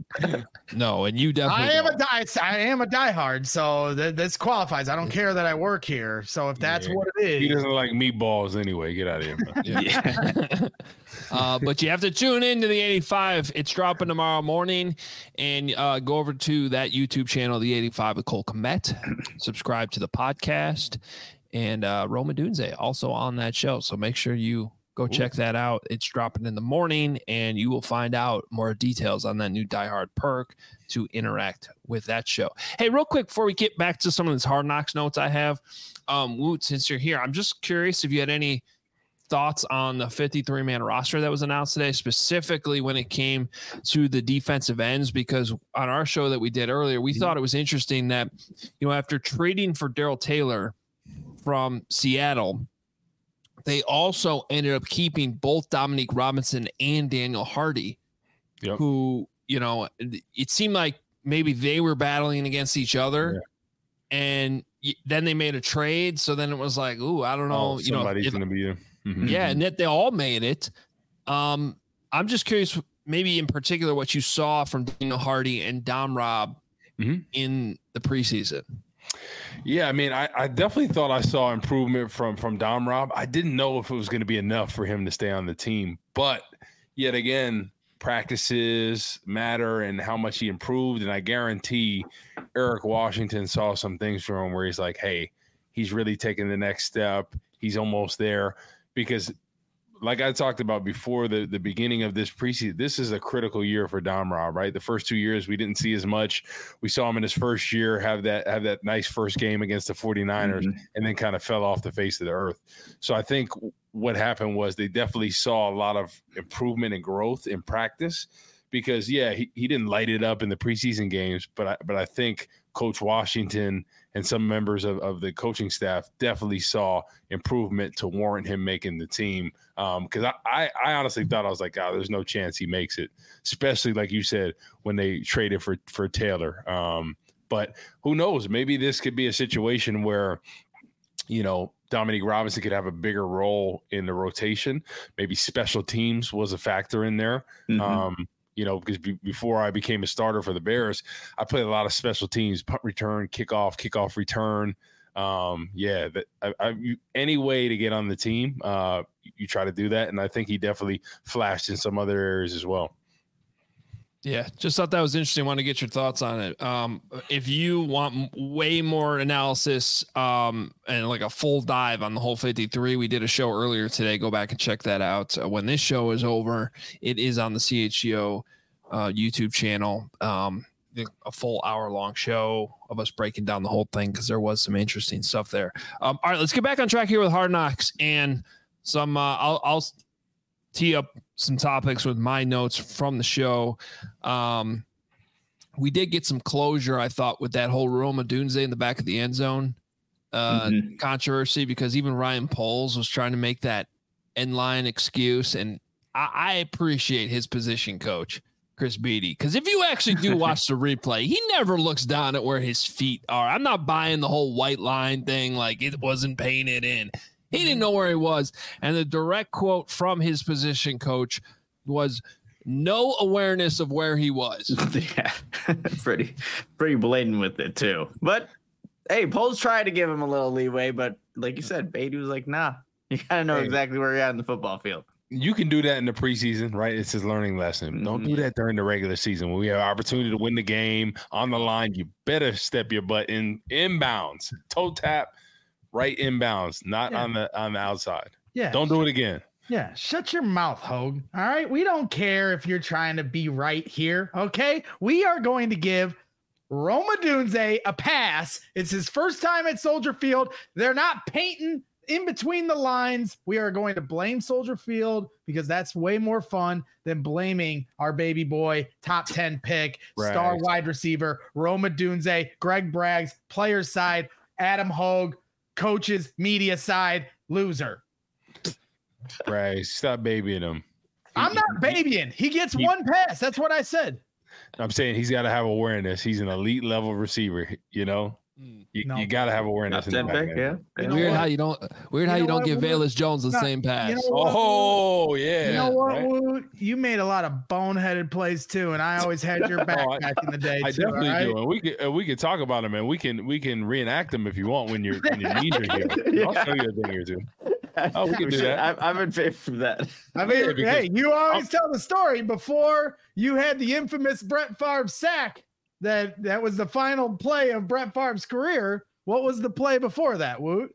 no, and you definitely. I am don't. a die. I am a diehard, so th- this qualifies. I don't care that I work here. So if that's yeah. what it is, he doesn't like meatballs anyway. Get out of here. yeah. yeah. uh, but you have to tune in to the eighty-five. It's dropping tomorrow morning, and uh, go over to that YouTube channel, the eighty-five with Cole Kmet. Subscribe to the podcast, and uh, Roma Dunze also on that show. So make sure you. Go Ooh. check that out. It's dropping in the morning, and you will find out more details on that new Die Hard perk to interact with that show. Hey, real quick, before we get back to some of these Hard Knocks notes I have, um, Woot, since you're here, I'm just curious if you had any thoughts on the fifty-three man roster that was announced today, specifically when it came to the defensive ends, because on our show that we did earlier, we mm-hmm. thought it was interesting that, you know, after trading for Darrell Taylor from Seattle, they also ended up keeping both Dominique Robinson and Daniel Hardy, yep. who, you know, it seemed like maybe they were battling against each other. Yeah. And then they made a trade. So then it was like, ooh, I don't know. Oh, you know, somebody's going to be there. Mm-hmm. Yeah. And that they all made it. Um, I'm just curious, maybe in particular, what you saw from Daniel Hardy and Dom Rob mm-hmm. in the preseason. Yeah, I mean, I, I definitely thought I saw improvement from from Dom Rob. I didn't know if it was going to be enough for him to stay on the team. But yet again, practices matter and how much he improved. And I guarantee Eric Washington saw some things from him where he's like, hey, he's really taking the next step. He's almost there. Because like I talked about before the, the beginning of this preseason, this is a critical year for Dom Rob, right? The first two years we didn't see as much. We saw him in his first year have that have that nice first game against the 49ers mm-hmm. and then kind of fell off the face of the earth. So I think what happened was they definitely saw a lot of improvement and growth in practice because, yeah, he, he didn't light it up in the preseason games, but I, but I think Coach Washington and some members of, of the coaching staff definitely saw improvement to warrant him making the team. Because um, I, I, I honestly thought, I was like, oh, there's no chance he makes it, especially like you said, when they traded for, for Taylor. Um, but who knows? Maybe this could be a situation where, you know, Dominique Robinson could have a bigger role in the rotation. Maybe special teams was a factor in there. Mm-hmm. Um, you know, because be, before I became a starter for the Bears, I played a lot of special teams, punt return, kickoff, kickoff return. Um, yeah, that I, I, you, any way to get on the team, uh, you try to do that. And I think he definitely flashed in some other areas as well. Yeah, just thought that was interesting. Want to get your thoughts on it. Um, if you want way more analysis um, and like a full dive on the whole fifty-three, we did a show earlier today. Go back and check that out. Uh, when this show is over, it is on the C H G O uh, YouTube channel. Um, a full hour long show of us breaking down the whole thing because there was some interesting stuff there. Um, all right, let's get back on track here with Hard Knocks and some. Uh, I'll, I'll tee up some topics with my notes from the show. Um, we did get some closure, I thought, with that whole Rome Odunze in the back of the end zone uh, mm-hmm. controversy, because even Ryan Poles was trying to make that end line excuse. And I, I appreciate his position coach, Chris Beatty, because if you actually do watch the replay, he never looks down at where his feet are. I'm not buying the whole white line thing like it wasn't painted in. He didn't know where he was. And the direct quote from his position coach was no awareness of where he was. Yeah, pretty, pretty blatant with it too. But hey, Poles tried to give him a little leeway, but like you said, Beatty was like, nah, you got to know hey, exactly where you're at in the football field. You can do that in the preseason, right? It's his learning lesson. Mm-hmm. Don't do that during the regular season. When we have opportunity to win the game on the line, you better step your butt in inbounds, toe tap, right inbounds, not yeah. on the on the outside. Yeah. Don't do it again. Yeah. Shut your mouth, Hogue. All right. We don't care if you're trying to be right here. Okay. We are going to give Rome Odunze a pass. It's his first time at Soldier Field. They're not painting in between the lines. We are going to blame Soldier Field because that's way more fun than blaming our baby boy, top ten pick, Braggs. Star wide receiver, Rome Odunze, Greg Braggs, player side, Adam Hogue, coaches, media side, loser. Right. Stop babying him. I'm not babying. He gets he, one pass. That's what I said. I'm saying he's got to have awareness. He's an elite level receiver, you know? You, no. you got to have awareness. In the back, pick, yeah. You weird how you don't weird you how you don't give Velus Jones the not, same pass. You know oh, yeah. You know what, right? Woot? You made a lot of boneheaded plays too, and I always had your back oh, back in the day. I too, definitely right? do. And we could we could talk about them, and we can we can reenact them if you want when your when your knees are here. Yeah. I'll show you a thing or two. Oh, we can do that. I, I'm in favor of that. I mean, yeah, hey, you always I'll, tell the story before you had the infamous Brett Favre sack. That that was the final play of Brett Favre's career. What was the play before that, Woot?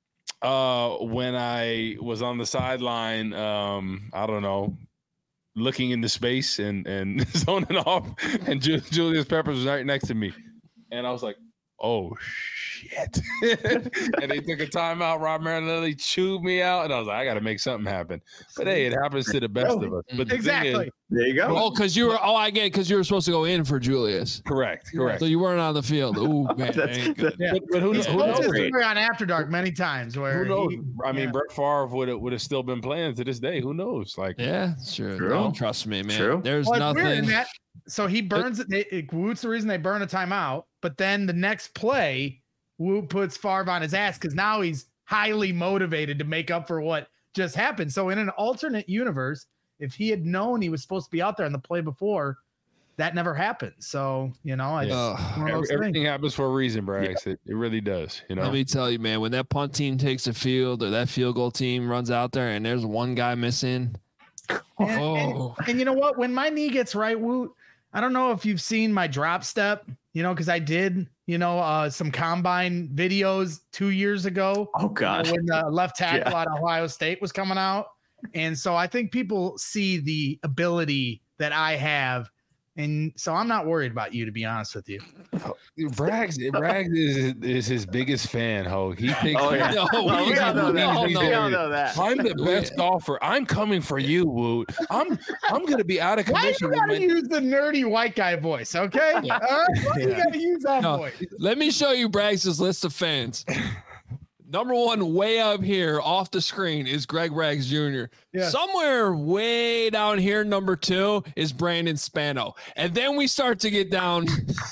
Uh, when I was on the sideline, um, I don't know, looking into space and and zoning off, and Ju- Julius Peppers was right next to me, and I was like, "Oh shit!" And they took a timeout. Rob Marinelli chewed me out, and I was like, "I got to make something happen." But hey, it happens to the best of us. But the exactly. Thing is, there you go. Oh, because you were. Oh, I get it. Because you were supposed to go in for Julius. Correct. Correct. So you weren't on the field. Ooh, man. Yeah. But, but who, who knows? On After Dark many times. Where who knows? He, I mean, yeah. Brett Favre would have would have still been playing to this day. Who knows? Like, yeah, sure. True. Don't trust me, man. True. There's well, nothing. That, so he burns it. it. Woot's the reason they burn a timeout. But then the next play, Woot puts Favre on his ass because now he's highly motivated to make up for what just happened. So in an alternate universe, if he had known he was supposed to be out there in the play before, that never happened. So, you know, I yeah. Every, everything happens for a reason, Braggs. Yeah. It, it really does. You know, let me tell you, man, when that punt team takes the field or that field goal team runs out there and there's one guy missing. And, oh. and, and you know what? When my knee gets right, Woot, I don't know if you've seen my drop step, you know, because I did, you know, uh, some combine videos two years ago. Oh, God. You know, when the left tackle yeah. out of Ohio State was coming out. And so I think people see the ability that I have. And so I'm not worried about you, to be honest with you. Rags, Rags is, is his biggest fan, ho. He thinks Oh, yeah. No, Oh, we we all know that. we all We know. all know that. I'm the best golfer. I'm coming for you, Woot. I'm I'm gonna be out of Why commission. you gotta when- use the nerdy white guy voice, okay? All right? Why you Yeah. gotta use that No, voice? Let me show you Braggs' list of fans. Number one, way up here off the screen, is Greg Braggs Junior Yeah. Somewhere way down here, number two, is Brandon Spano. And then we start to get down.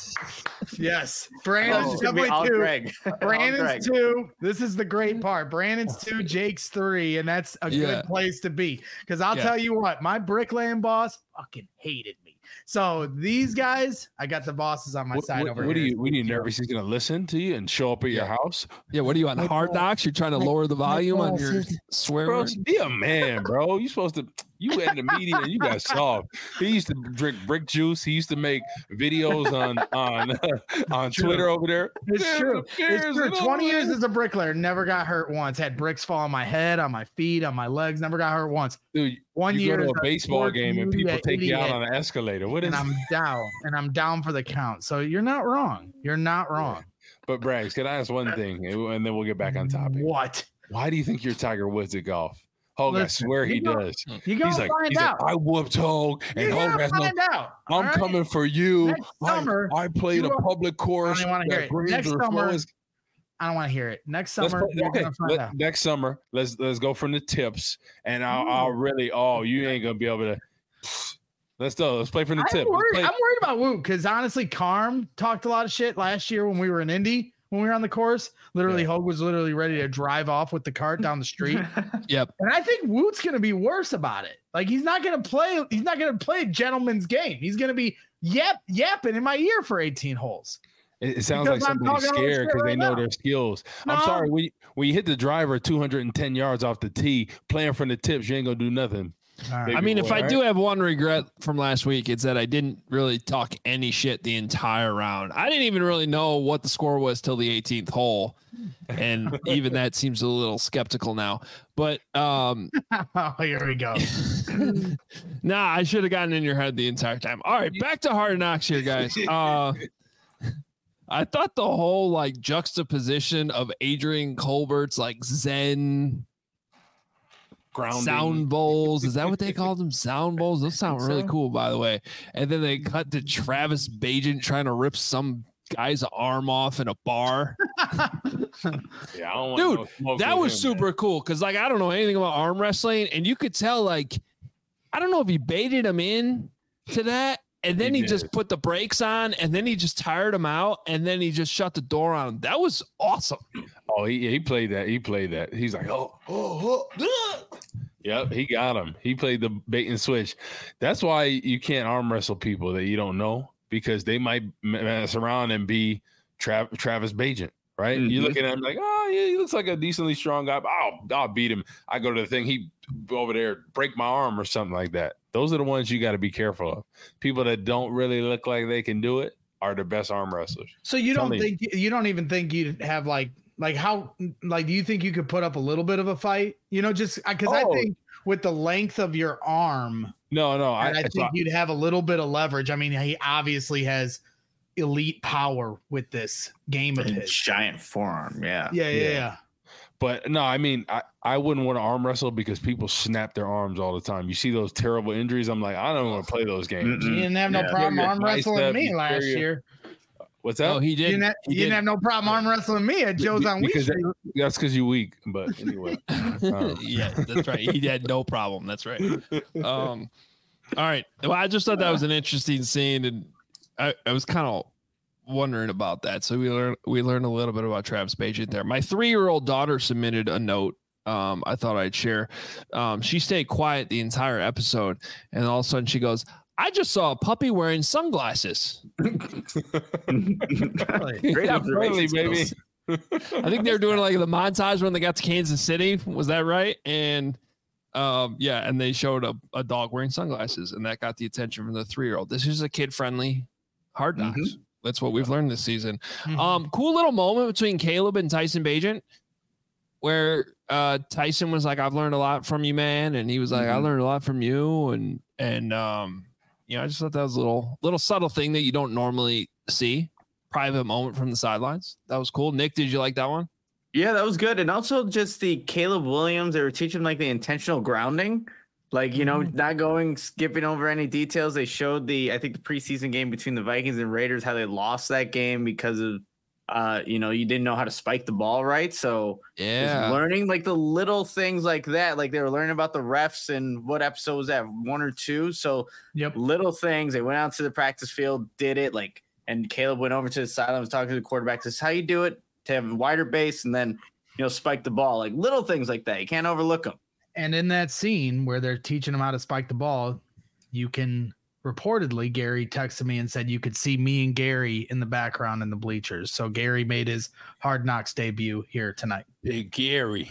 Yes. Oh, Brandon's it's gonna be definitely all two. Greg. All Greg. Brandon's two. This is the great part. Brandon's two, Jake's three, and that's a Yeah. good place to be. Because I'll Yeah. tell you what, my bricklaying boss fucking hated me. So these guys, I got the bosses on my What, side what, over what are here. you? What are you nervous? He's gonna listen to you and show up at your Yeah. house, Yeah, what are you on Hard Knocks? You're trying to lower the volume on your swear bro. word? Be a man, bro. You supposed to. You in the media and you got soft. He used to drink brick juice. He used to make videos on on on True. Twitter over there. It's There's true. the It's beers true. and all twenty years that. as a bricklayer, never got hurt once. Had bricks fall on my head, on my feet, on my legs. Never got hurt once. Dude, One you year go to as a baseball sports game and media people take you out idiot, on an escalator. What is? and I'm down, and I'm down for the count. So you're not wrong. You're not wrong. But Braggs, can I ask one thing, and and then we'll get back on topic. What? Why do you think you're Tiger Woods at golf? Hogue, I Listen, swear he you know- does. You gonna He's like, find he's like, out. I whooped Hogue, and You're Hogue gonna has no. find out. I'm all right? coming for you. Next summer, I, I played you a will- public course. I don't wanna hear that it. greens Next were summer, flowing. I don't want to hear it. Next Let's summer, play- you're okay, gonna find let- out. next summer, let's let's go from the tips, and I'll, I'll really. Oh, you ain't gonna be able to. Let's go. Let's play from the I'm tip. Let's worried, play- I'm worried about Woot because honestly, Carm talked a lot of shit last year when we were in Indy. When we were on the course, literally, Yeah. Hogue was literally ready to drive off with the cart down the street. Yep. And I think Woot's gonna be worse about it. Like he's not gonna play. He's not gonna play a gentleman's game. He's gonna be yap yapping in my ear for eighteen holes. It, it sounds Because like I'm somebody's talking all this scared shit because they right know now. their skills. I'm No. sorry. When you, when you hit the driver two hundred ten yards off the tee, playing from the tips, you ain't gonna do nothing. All right. Maybe I mean, if more, I right? do have one regret from last week, it's that I didn't really talk any shit the entire round. I didn't even really know what the score was till the eighteenth hole. And even that seems a little skeptical now. But um Oh, here we go. nah, I should have gotten in your head the entire time. All right, back to Hard Knocks here, guys. Uh I thought the whole like juxtaposition of Adrian Colbert's like Zen Grounding. sound bowls. Is that what they called them? Sound bowls? Those sound really so. cool, by the way. And then they cut to Travis Bagent trying to rip some guy's arm off in a bar. Yeah, I don't want Dude, no smoke That with was him, super cool because, like, I don't know anything about arm wrestling, and you could tell, like, I don't know if he baited him in to that, and then He he, just did. put the brakes on, and then he just tired him out, and then he just shut the door on him. That was awesome. Oh, he he played that. He played that. He's like, oh, oh, oh. Yep, he got him. He played the bait and switch. That's why you can't arm wrestle people that you don't know because they might mess around and be Tra- Travis Bagent, right? You Mhm. look at him like, oh, yeah, he looks like a decently strong guy. But I'll I'll beat him. I go to the thing, he over there break my arm or something like that. Those are the ones you got to be careful of. People that don't really look like they can do it are the best arm wrestlers. So you don't Telling think you don't even think you'd have like like how like do you think you could put up a little bit of a fight? You know, just because I Oh. think with the length of your arm, No, no, I, and I, I think you'd have a little bit of leverage. I mean, he obviously has elite power with this game of A his. giant forearm. Yeah. Yeah, yeah, Yeah. yeah. But no, I mean, I, I wouldn't want to arm wrestle because people snap their arms all the time. You see those terrible injuries. I'm like, I don't want to play those games. You Mm-mm. didn't have no Yeah. problem Tear your arm wrestling bicep, me you last tear your- year. What's that? Oh, he You did. didn't, have, He you didn't did. have no problem arm wrestling me at Joe's on Week because Street. that- that's because you're weak. But anyway, um, yeah, that's right. He had no problem. That's right. Um, all right. Well, I just thought that was an interesting scene, and I, I was kind of wondering about that. So we learned we learned a little bit about Travis Bagent there. My three year old daughter submitted a note. Um, I thought I'd share. Um, she stayed quiet the entire episode, and all of a sudden she goes, "I just saw a puppy wearing sunglasses." Really? Great friendly, observation, baby. skills. I think they were doing like the montage when they got to Kansas City. Was that right? And um, yeah, and they showed a, a dog wearing sunglasses, and that got the attention from the three year old. This is a kid friendly Hard Knocks. Mhm. That's what we've learned this season. Mhm. Um, cool little moment between Caleb and Tyson Bagent, where uh, Tyson was like, "I've learned a lot from you, man," and he was like, "I Mhm. learned a lot from you," and and um, You know, I just thought that was a little little subtle thing that you don't normally see. Private moment from the sidelines. That was cool. Nick, did you like that one? Yeah, that was good. And also just the Caleb Williams, they were teaching like the intentional grounding. Like, you know, not going, skipping over any details. They showed the, I think the preseason game between the Vikings and Raiders, how they lost that game because of, uh, you know, you didn't know how to spike the ball right. So yeah, learning like the little things like that. Like they were learning about the refs and what episode was that, one or two. So yep. little things. They went out to the practice field, did it like, and Caleb went over to the sideline, was talking to the quarterback. This is how you do it to have a wider base and then, you know, spike the ball. Like little things like that. You can't overlook them. And in that scene where they're teaching him how to spike the ball, you can reportedly, Gary texted me and said you could see me and Gary in the background in the bleachers. So Gary made his Hard Knocks debut here tonight. Big Gary.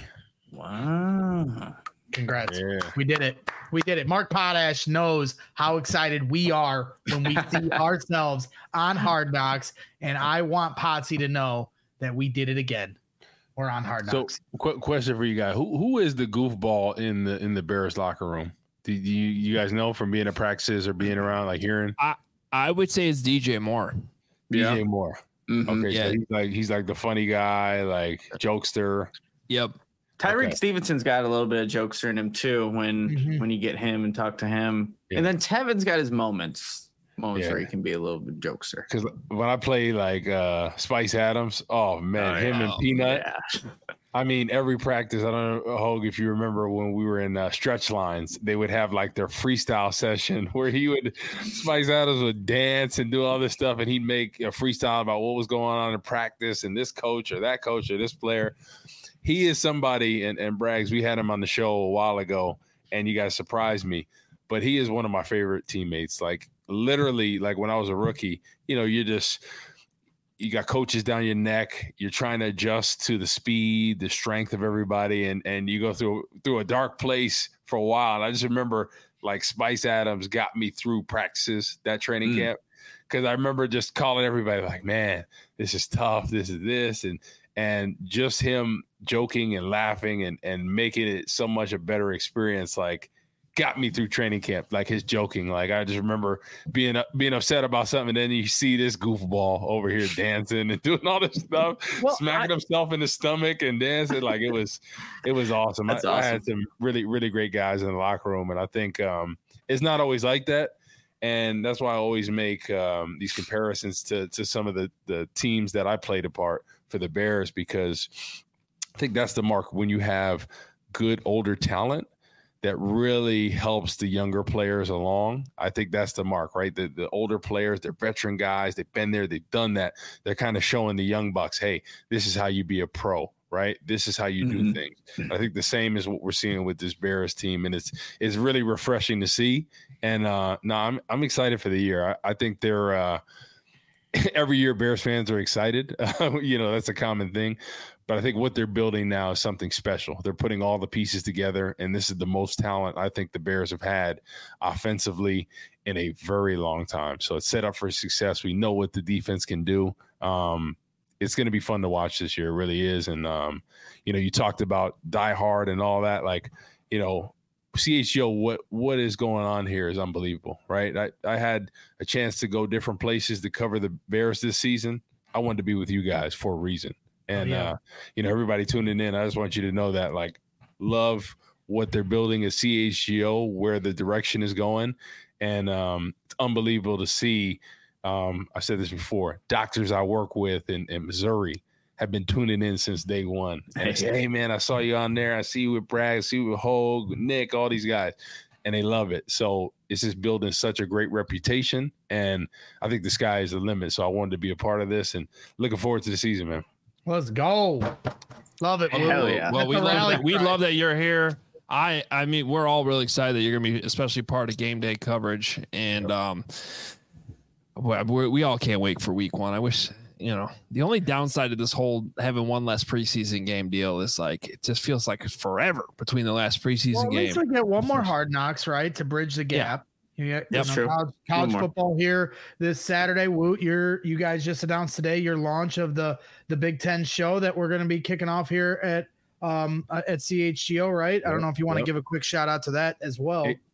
Wow. Congrats. Yeah. We did it. We did it. Mark Potash knows how excited we are when we see ourselves on Hard Knocks. And I want Potsy to know that we did it again. We're on Hard Knocks. So, qu- question for you guys: Who who is the goofball in the in the Bears locker room? Do you you guys know from being at practices or being around, like hearing? I I would say it's D J Moore. D J Yeah. Moore. Mm-hmm. Okay, Yeah. so he's like he's like the funny guy, like jokester. Yep. Tyreek Okay. Stevenson's got a little bit of jokester in him too when Mhm. when you get him and talk to him. Yeah. And then Tevin's got his moments. Moments Yeah. where he can be a little bit jokester. Because when I play like uh, Spice Adams, oh man, Oh, him yeah. and Peanut. Yeah. I mean, every practice. I don't know, Hogue, if you remember when we were in uh, stretch lines, they would have like their freestyle session where he would, Spice Adams would dance and do all this stuff, and he'd make a freestyle about what was going on in practice and this coach or that coach or this player. He is somebody, and, and Braggs, we had him on the show a while ago, and you guys surprised me, but he is one of my favorite teammates. Like literally, like when I was a rookie, you know, you're just – you got coaches down your neck. You're trying to adjust to the speed, the strength of everybody, and and you go through through a dark place for a while. And I just remember like Spice Adams got me through practices, that training Mm. camp, because I remember just calling everybody like, "Man, this is tough. This is this," and and just him joking and laughing and and making it so much a better experience. Like, got me through training camp, like his joking. Like I just remember being being upset about something, and then you see this goofball over here dancing and doing all this stuff, Well, smacking I- himself in the stomach and dancing. Like it was, it was awesome. That's I, I awesome. had some really, really great guys in the locker room, and I think um, it's not always like that. And that's why I always make um, these comparisons to to some of the the teams that I played a part for the Bears, because I think that's the mark when you have good older talent that really helps the younger players along. I think that's the mark, right? The the older players, they're veteran guys. They've been there. They've done that. They're kind of showing the young bucks, hey, this is how you be a pro, right? This is how you do Mhm. things. I think the same is what we're seeing with this Bears team, and it's it's really refreshing to see. And uh, no, I'm I'm excited for the year. I, I think they're uh, every year Bears fans are excited. You know, that's a common thing. But I think what they're building now is something special. They're putting all the pieces together, and this is the most talent I think the Bears have had offensively in a very long time. So it's set up for success. We know what the defense can do. Um, it's going to be fun to watch this year. It really is. And, um, you know, you talked about Die Hard and all that. Like, you know, C H G O, what what is going on here is unbelievable, right? I, I had a chance to go different places to cover the Bears this season. I wanted to be with you guys for a reason. And, Oh, yeah. uh, you know, everybody tuning in, I just want you to know that, like, love what they're building at C H G O, where the direction is going. And um, it's unbelievable to see. Um, I said this before, doctors I work with in, in Missouri have been tuning in since day one. And they say, hey, man, I saw you on there. I see you with Bragg, I see you with Hogue, Nick, all these guys. And they love it. So it's just building such a great reputation. And I think the sky is the limit. So I wanted to be a part of this and looking forward to the season, man. Let's go. Love it. Hell Lou. yeah. Well, That's we a love rally that. We cry. love that you're here. I I mean, we're all really excited that you're gonna be, especially part of game day coverage, and um, we we we all can't wait for week one. I wish, you know, the only downside to this whole having one less preseason game deal is like it just feels like it's forever between the last preseason Well, at game. least we get one more Hard Knocks, right, to bridge the gap. You get, That's you know, true. College, college more. football here this Saturday. Woot, you're you guys just announced today your launch of the the Big Ten show that we're going to be kicking off here at um uh, at C H G O, right? I don't know if you want to Yep. give a quick shout out to that as well. Hey,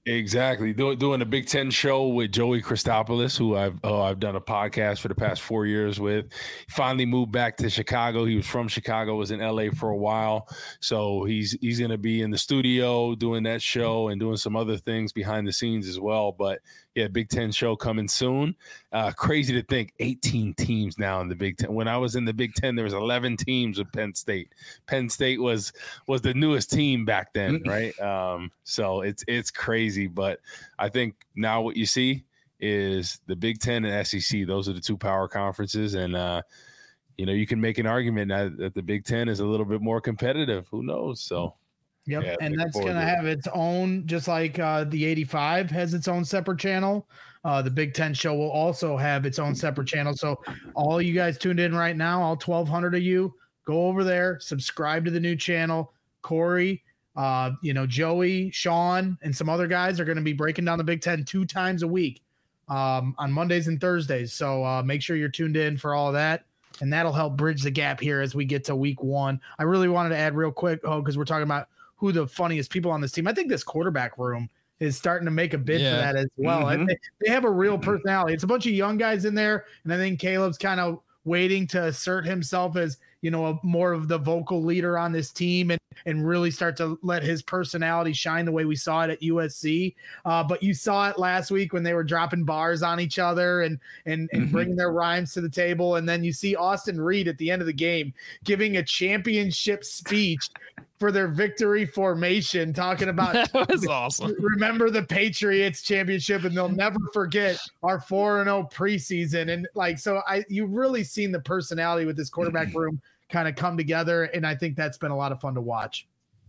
Exactly. Do, doing a Big Ten show with Joey Christopoulos, who I've oh, I've done a podcast for the past four years with. Finally moved back to Chicago. He was from Chicago, was in L A for a while. So he's he's going to be in the studio doing that show and doing some other things behind the scenes as well. But yeah, Big Ten show coming soon. Uh, crazy to think eighteen teams now in the Big Ten. When I was in the Big Ten, there was eleven teams with Penn State. Penn State was was the newest team back then, right? Um, so it's it's crazy, but I think now what you see is the Big Ten and S E C. Those are the two power conferences, and uh, you know you can make an argument that, that the Big Ten is a little bit more competitive. Who knows? So. Yep, yeah, and that's going to have its own, just like uh, the eighty-five has its own separate channel. Uh, the Big Ten show will also have its own separate channel. So all you guys tuned in right now, all twelve hundred of you, go over there, subscribe to the new channel. Corey, uh, you know, Joey, Sean, and some other guys are going to be breaking down the Big Ten two times a week um, on Mondays and Thursdays. So uh, make sure you're tuned in for all of that. And that'll help bridge the gap here as we get to week one. I really wanted to add real quick, oh, because we're talking about who the funniest people on this team. I think this quarterback room is starting to make a bid yeah. for that as well. Mm-hmm. They, they have a real personality. It's a bunch of young guys in there, and I think Caleb's kind of waiting to assert himself as, you know, a, more of the vocal leader on this team and, and really start to let his personality shine the way we saw it at U S C. Uh, but you saw it last week when they were dropping bars on each other and, and, and mm-hmm. bringing their rhymes to the table. And then you see Austin Reed at the end of the game giving a championship speech for their victory formation, talking about that was awesome. Remember the Patriots championship, and they'll never forget our four and oh preseason. And like, so I, you've really seen the personality with this quarterback room kind of come together. And I think that's been a lot of fun to watch.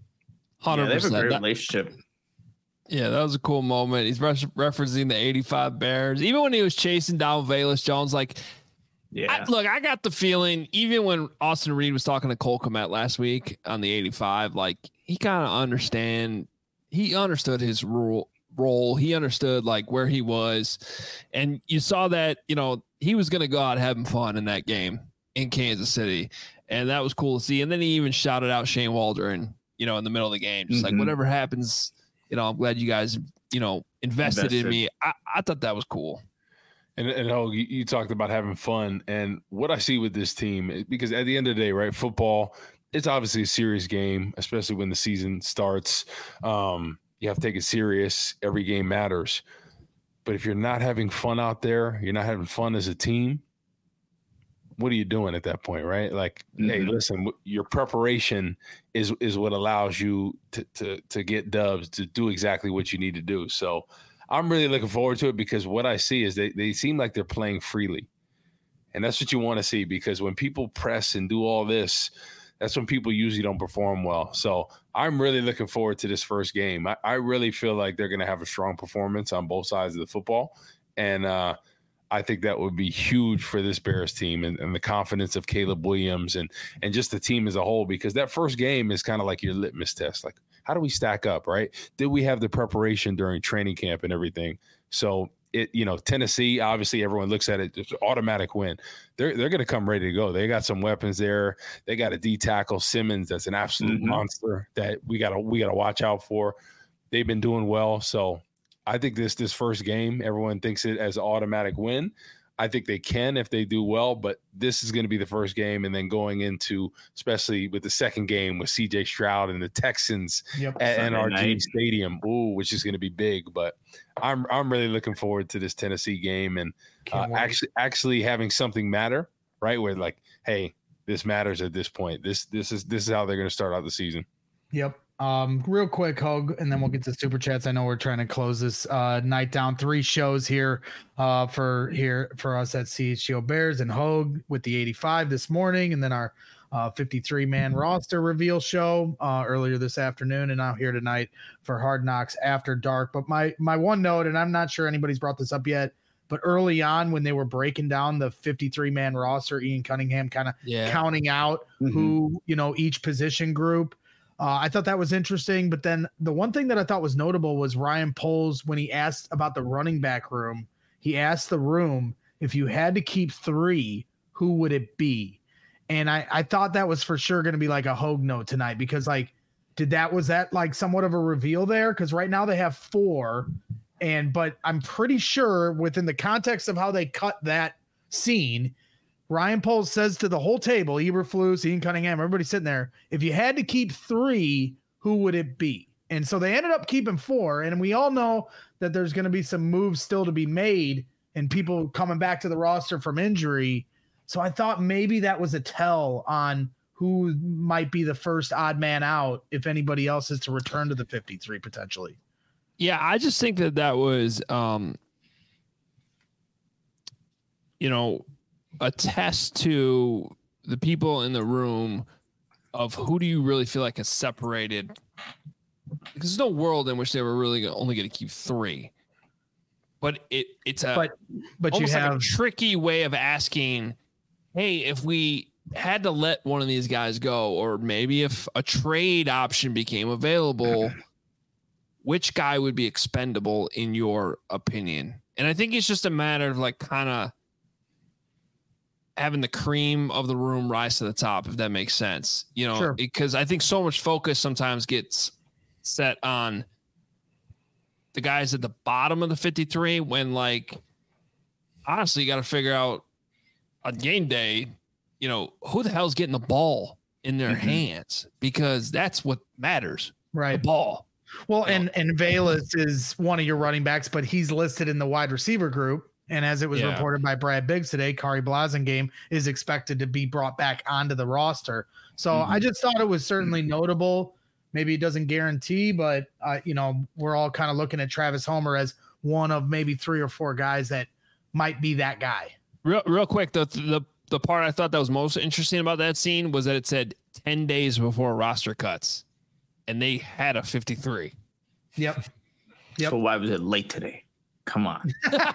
one hundred percent. Yeah, they have a great that, relationship. Yeah, that was a cool moment. He's re- referencing the eighty-five Bears. Even when he was chasing down Velus Jones, like, yeah. I, look, I got the feeling, even when Austin Reed was talking to Cole Kmet last week on the eighty-five, like, he kind of understand, he understood his role, role. He understood, like, where he was. And you saw that, you know, he was going to go out having fun in that game in Kansas City. And that was cool to see. And then he even shouted out Shane Waldron, you know, in the middle of the game. Just mm-hmm. like, whatever happens, you know, I'm glad you guys, you know, invested, invested. in me. I, I thought that was cool. And, and oh, you, you talked about having fun. And what I see with this team, because at the end of the day, right, football, it's obviously a serious game, especially when the season starts. Um, you have to take it serious. Every game matters. But if you're not having fun out there, you're not having fun as a team, what are you doing at that point, right? Like, mm-hmm. hey, listen, your preparation is is what allows you to to to get dubs, to do exactly what you need to do. So I'm really looking forward to it, because what I see is they, they seem like they're playing freely. And that's what you want to see, because when people press and do all this, that's when people usually don't perform well. So I'm really looking forward to this first game. I, I really feel like they're going to have a strong performance on both sides of the football. And uh, I think that would be huge for this Bears team and, and the confidence of Caleb Williams and, and just the team as a whole, because that first game is kind of like your litmus test. Like, how do we stack up, right? Did we have the preparation during training camp and everything? So it, you know, Tennessee, obviously everyone looks at it, it's an automatic win. They're they're going to come ready to go. They got some weapons there. They got a D tackle, Simmons, that's an absolute mm-hmm. monster that we got to we got to watch out for. They've been doing well. So I think this this first game, everyone thinks it as an automatic win. I think they can if they do well, but this is going to be the first game, and then going into, especially with the second game with C J Stroud and the Texans yep, at N R G Stadium, ooh, which is going to be big. But I'm I'm really looking forward to this Tennessee game, and uh, actually actually having something matter, right? Where like, hey, this matters at this point. This this is this is how they're going to start out the season. Yep. Um, real quick, Hogue, and then we'll get to super chats. I know we're trying to close this uh, night down. Three shows here uh, for here for us at C H G O Bears and Hogue with the eighty-five this morning, and then our uh, fifty-three man roster reveal show uh, earlier this afternoon, and now here tonight for Hard Knocks After Dark. But my my one note, and I'm not sure anybody's brought this up yet, but early on when they were breaking down the fifty-three man roster, Ian Cunningham kind of yeah. counting out mm-hmm. who, you know, each position group. Uh, I thought that was interesting, but then the one thing that I thought was notable was Ryan Poles, when he asked about the running back room, he asked the room, if you had to keep three, who would it be? And I, I thought that was for sure going to be like a Hogue note tonight, because like did that was that like somewhat of a reveal there? Because right now they have four, and but I'm pretty sure within the context of how they cut that scene, Ryan Poles says to the whole table, Eberflus, Ian Cunningham, everybody sitting there, if you had to keep three, who would it be? And so they ended up keeping four, and we all know that there's going to be some moves still to be made and people coming back to the roster from injury. So I thought maybe that was a tell on who might be the first odd man out if anybody else is to return to the fifty-three potentially. Yeah, I just think that that was, um, you know, a test to the people in the room of who do you really feel like is separated. Because there's no world in which they were really only going to keep three. But it it's a, but, but almost you have like a tricky way of asking, hey, if we had to let one of these guys go, or maybe if a trade option became available, which guy would be expendable in your opinion? And I think it's just a matter of like kind of having the cream of the room rise to the top, if that makes sense, you know, sure. Because I think so much focus sometimes gets set on the guys at the bottom of the fifty-three when, like, honestly, you got to figure out on game day, you know, who the hell's getting the ball in their mm-hmm. hands, because that's what matters. Right. The ball. Well, and, and Velus is one of your running backs, but he's listed in the wide receiver group. And as it was yeah. reported by Brad Biggs today, Kari Blasingame is expected to be brought back onto the roster. So mm-hmm. I just thought it was certainly notable. Maybe it doesn't guarantee, but, uh, you know, we're all kind of looking at Travis Homer as one of maybe three or four guys that might be that guy. Real, real quick, the, the the part I thought that was most interesting about that scene was that it said ten days before roster cuts, and they had a fifty-three. Yep. Yep. So why was it late today? Come on.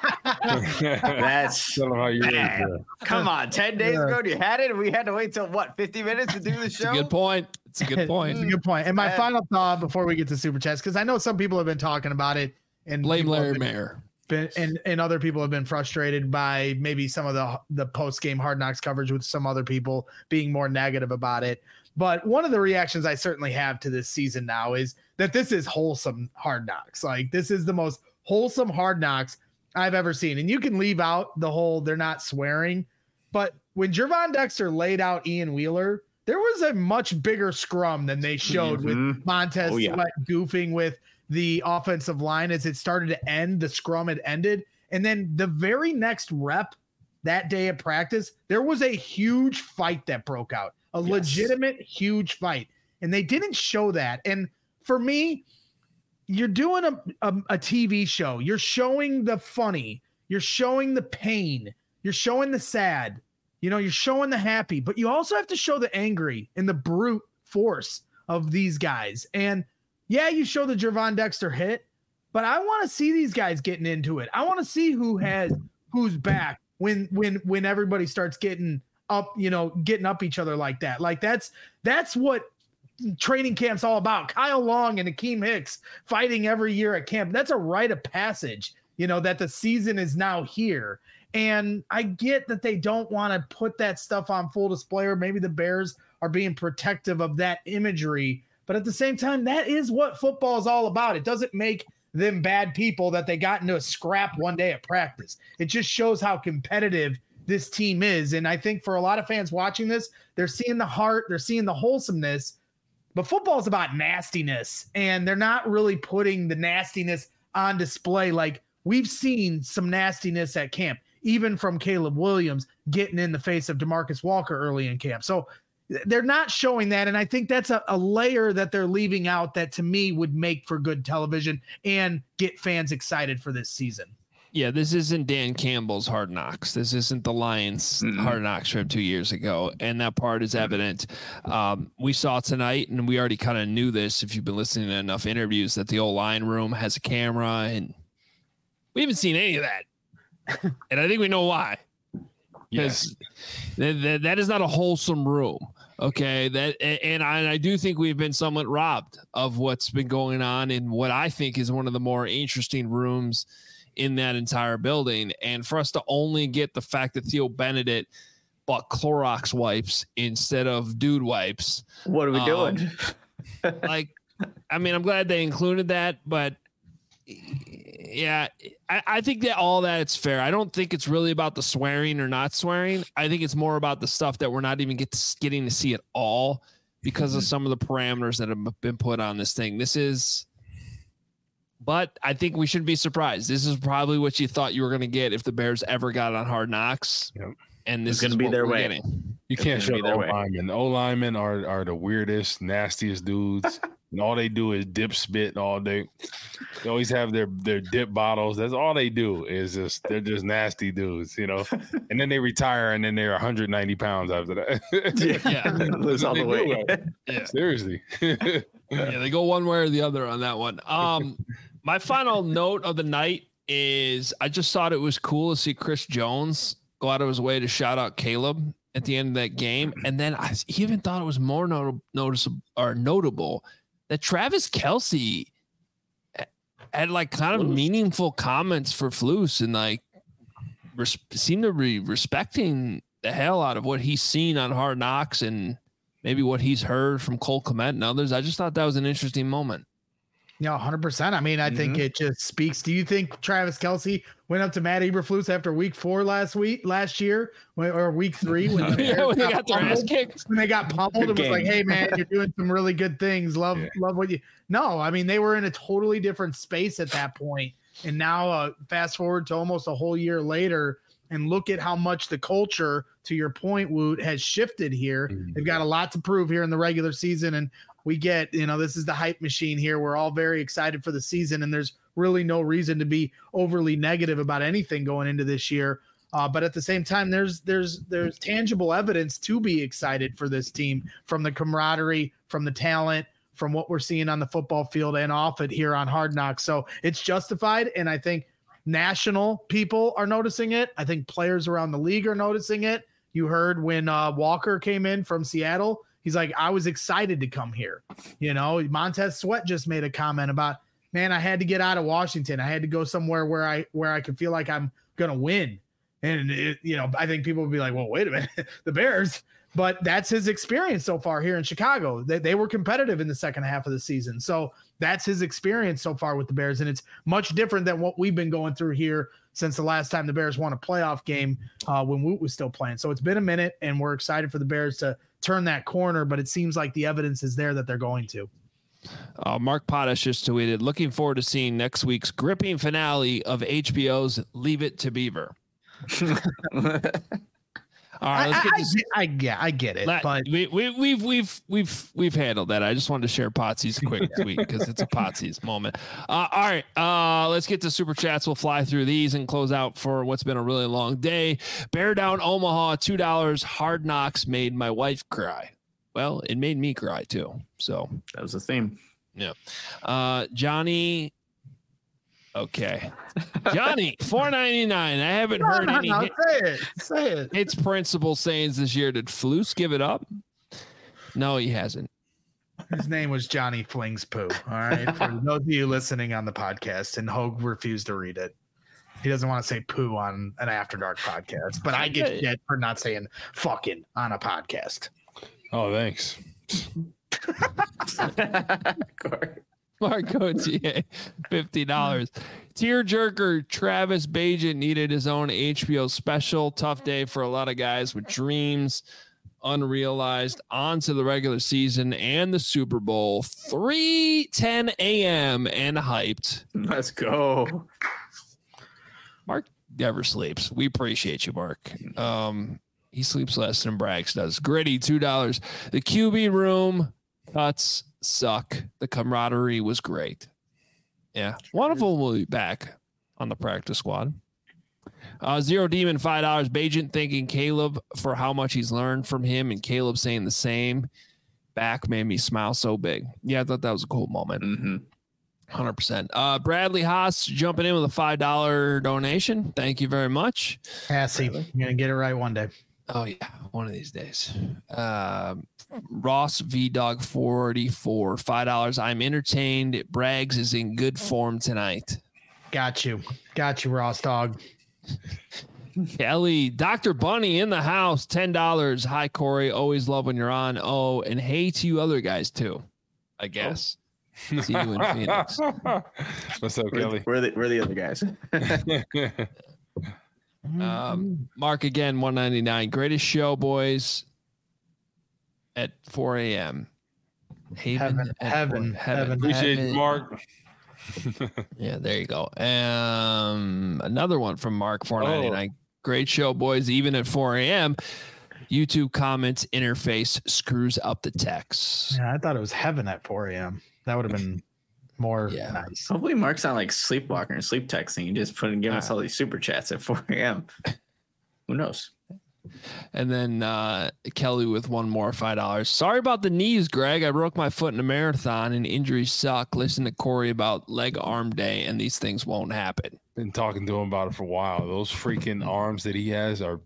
That's how you Come on. ten days yeah. ago, you had it, and we had to wait till what, fifty minutes to do the show? It's a good point. It's a good point. It's a good point. And my and, final thought before we get to Super Chats, because I know some people have been talking about it, and blame Larry been, Mayer. Been, and and other people have been frustrated by maybe some of the the post game Hard Knocks coverage, with some other people being more negative about it. But one of the reactions I certainly have to this season now is that this is wholesome Hard Knocks. Like, this is the most wholesome Hard Knocks I've ever seen. And you can leave out the whole they're not swearing, but when Gervon Dexter laid out Ian Wheeler, there was a much bigger scrum than they showed mm-hmm. with Montez oh, yeah. Sweat goofing with the offensive line as it started to end. The scrum had ended. And then the very next rep that day at practice, there was a huge fight that broke out, a yes. legitimate huge fight. And they didn't show that. And for me, you're doing a, a, a T V show. You're showing the funny. You're showing the pain. You're showing the sad. You know, you're showing the happy. But you also have to show the angry and the brute force of these guys. And, yeah, you show the Gervon Dexter hit, but I want to see these guys getting into it. I want to see who has who's back when when when everybody starts getting up, you know, getting up each other like that. Like, that's that's what training camp's all about. Kyle Long and Akeem Hicks fighting every year at camp. That's a rite of passage, you know, that the season is now here. And I get that they don't want to put that stuff on full display, or maybe the Bears are being protective of that imagery. But at the same time, that is what football is all about. It doesn't make them bad people that they got into a scrap one day at practice. It just shows how competitive this team is. And I think for a lot of fans watching this, they're seeing the heart, they're seeing the wholesomeness. But football is about nastiness, and they're not really putting the nastiness on display. Like, we've seen some nastiness at camp, even from Caleb Williams getting in the face of DeMarcus Walker early in camp. So they're not showing that, and I think that's a, a layer that they're leaving out that, to me, would make for good television and get fans excited for this season. Yeah, this isn't Dan Campbell's Hard Knocks. This isn't the Lions mm-hmm. Hard Knocks from two years ago, and that part is evident. Um, we saw tonight, and we already kind of knew this if you've been listening to enough interviews, that the old line room has a camera, and we haven't seen any of that. And I think we know why. Because yeah. th- th- that is not a wholesome room. Okay, that and I, and I do think we've been somewhat robbed of what's been going on in what I think is one of the more interesting rooms in that entire building. And for us to only get the fact that Theo Benedict bought Clorox wipes instead of dude wipes. What are we um, doing? Like, I mean, I'm glad they included that, but yeah, I, I think that all that it's fair. I don't think it's really about the swearing or not swearing. I think it's more about the stuff that we're not even get to, getting to see at all because of some of the parameters that have been put on this thing. This is, but I think we shouldn't be surprised. This is probably what you thought you were going to get if the Bears ever got on Hard Knocks. Yep. And this it's going is to be their way. Getting. You it's can't show the O linemen. O linemen are are the weirdest, nastiest dudes. And all they do is dip spit all day. They always have their their dip bottles. That's all they do is just they're just nasty dudes, you know. And then they retire, and then they're one hundred ninety pounds after that. Yeah, yeah. Lose all the weight. Yeah, seriously. Yeah, they go one way or the other on that one. Um, my final note of the night is I just thought it was cool to see Chris Jones go out of his way to shout out Caleb at the end of that game, and then I even thought it was more not- noticeable or notable that Travis Kelce had like kind of meaningful comments for Flus and like res- seemed to be respecting the hell out of what he's seen on Hard Knocks and maybe what he's heard from Cole Kmet and others. I just thought that was an interesting moment. Yeah, one hundred percent. I mean, I mm-hmm. think it just speaks. Do you think Travis Kelce went up to Matt Eberflus after week four last week, last year, or week three when, the yeah, when they got their ass kicked? When they got pummeled, it was like, hey, man, you're doing some really good things. Love, yeah. love what you. No, I mean, they were in a totally different space at that point. And now, uh, fast forward to almost a whole year later, and look at how much the culture, to your point, Woot, has shifted here. Mm-hmm. They've got a lot to prove here in the regular season. And we get, you know, this is the hype machine here. We're all very excited for the season, and there's really no reason to be overly negative about anything going into this year. Uh, but at the same time, there's there's there's tangible evidence to be excited for this team, from the camaraderie, from the talent, from what we're seeing on the football field and off it here on Hard Knocks. So it's justified, and I think national people are noticing it. I think players around the league are noticing it. You heard when uh, Walker came in from Seattle. He's like, I was excited to come here. You know, Montez Sweat just made a comment about, man, I had to get out of Washington. I had to go somewhere where I where I could feel like I'm going to win. And, it, you know, I think people would be like, well, wait a minute, the Bears. But that's his experience so far here in Chicago. They, they were competitive in the second half of the season. So that's his experience so far with the Bears. And it's much different than what we've been going through here since the last time the Bears won a playoff game uh, when Woot was still playing. So it's been a minute, and we're excited for the Bears to turn that corner, but it seems like the evidence is there that they're going to. Uh, Mark Potash just tweeted, looking forward to seeing next week's gripping finale of H B O's Leave It to Beaver. All right, let's get I, this. I, I, yeah, I get it, Let, but we, we, we've we've we've we've handled that. I just wanted to share Potsy's quick tweet because it's a Potsy's moment. Uh, all right, uh, let's get to super chats. We'll fly through these and close out for what's been a really long day. Bear Down Omaha, two dollars. Hard Knocks made my wife cry. Well, it made me cry too. So that was the theme. Yeah, uh, Johnny. Okay, Johnny, four ninety-nine. I haven't no, heard no, any. No, say it. Say it. It's principal sayings this year. Did Flus give it up? No, he hasn't. His name was Johnny Flings Poo. All right, for those of you listening on the podcast, and Hogue refused to read it. He doesn't want to say poo on an After Dark podcast, but I get shit for not saying fucking on a podcast. Oh, thanks. Marco T A, fifty dollars. Tearjerker Travis Bagent needed his own H B O special. Tough day for a lot of guys with dreams unrealized. On to the regular season and the Super Bowl. three ten a.m. and hyped. Let's go. Mark never sleeps. We appreciate you, Mark. Um, he sleeps less than Braggs does. Gritty, two dollars. The Q B room cuts suck. The camaraderie was great. Yeah. One of them will be back on the practice squad. Uh, Zero Demon, five dollars. Bagent thanking Caleb for how much he's learned from him, and Caleb saying the same back made me smile so big. Yeah, I thought that was a cool moment. Mm-hmm. one hundred percent. Uh, Bradley Haas jumping in with a five dollars donation. Thank you very much. Passy, you're going to get it right one day. Oh, yeah, one of these days. Uh, Ross V Dog forty-four, five dollars. I'm entertained. Braggs is in good form tonight. Got you. Got you, Ross Dog. Kelly, Doctor Bunny in the house, ten dollars. Hi, Corey. Always love when you're on. Oh, and hey to you other guys, too. I guess. Oh. See you in Phoenix. What's up, we're, Kelly? We're the, we're the other guys. um, Mark again, one ninety-nine. Greatest show, boys. At four a.m. Haven, Heaven, heaven, heaven. Appreciate you, Mark. Yeah, there you go. Um, another one from Mark, four ninety-nine. Oh. Great show, boys. Even at four a.m. YouTube comments interface screws up the text. Yeah, I thought it was heaven at four a.m. That would have been more yeah. nice. Hopefully Mark's not like sleepwalker and sleep texting. You just put and give all us right. all these super chats at four a.m. Who knows? And then uh, Kelly with one more five dollars. Sorry about the knees, Greg. I broke my foot in a marathon and injuries suck. Listen to Corey about leg arm day and these things won't happen. Been talking to him about it for a while. Those freaking arms that he has are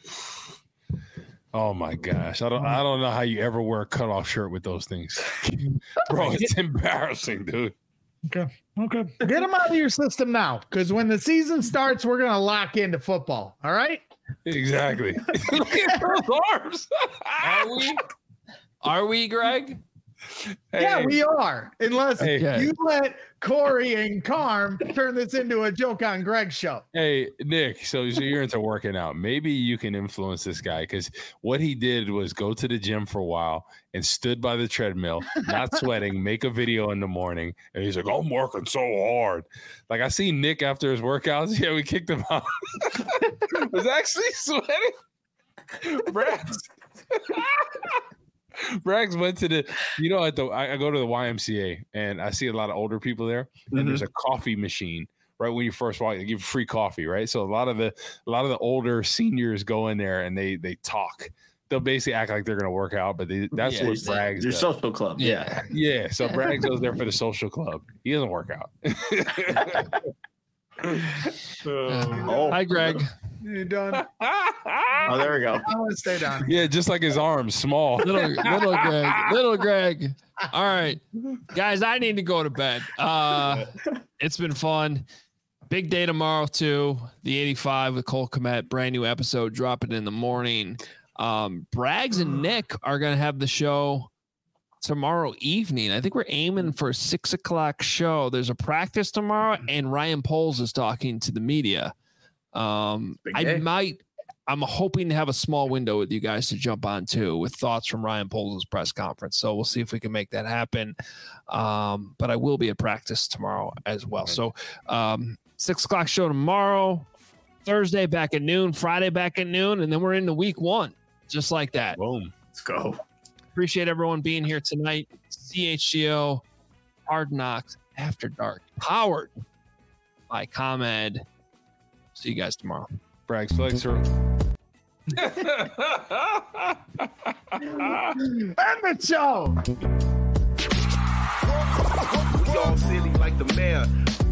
oh my gosh. I don't I don't know how you ever wear a cutoff shirt with those things. Bro, it's embarrassing, dude. Okay. Okay. Get them out of your system now. Because when the season starts, we're gonna lock into football. All right. Exactly. Look at those arms. Are we? Are we, Greg? Hey. Yeah, we are. Unless hey. you let Corey and Carm turn this into a joke on Greg's show. Hey, Nick, so, so you're into working out. Maybe you can influence this guy because what he did was go to the gym for a while and stood by the treadmill, not sweating, make a video in the morning. And he's like, I'm working so hard. Like I see Nick after his workouts. Yeah, we kicked him out. Was actually sweating. Brad. Braggs went to the, you know, at the I, I go to the Y M C A and I see a lot of older people there, and mm-hmm. there's a coffee machine right when you first walk. They give free coffee, right? So a lot of the a lot of the older seniors go in there and they they talk. They'll basically act like they're gonna work out, but they, that's yeah, what Braggs your does. Social club, yeah, yeah. So Braggs goes there for the social club. He doesn't work out. oh. Hi, Greg. You done? Oh, there we go. I want to stay down. Yeah, just like his arms, small. Little, little Greg. Little Greg. All right, guys, I need to go to bed. Uh, it's been fun. Big day tomorrow too. The eighty-five with Cole Kmet. Brand new episode dropping in the morning. Um, Braggs and Nick are gonna have the show tomorrow evening. I think we're aiming for a six o'clock show. There's a practice tomorrow, and Ryan Poles is talking to the media. Um, I might, I'm hoping to have a small window with you guys to jump on too with thoughts from Ryan Poles' press conference. So we'll see if we can make that happen. Um, but I will be at practice tomorrow as well. So, um, six o'clock show tomorrow, Thursday back at noon, Friday back at noon, and then we're into week one, just like that. Boom. Let's go. Appreciate everyone being here tonight. C H G O Hard Knocks After Dark, powered by ComEd. See you guys tomorrow. Braggs flex her. End the show. We all silly like the mayor.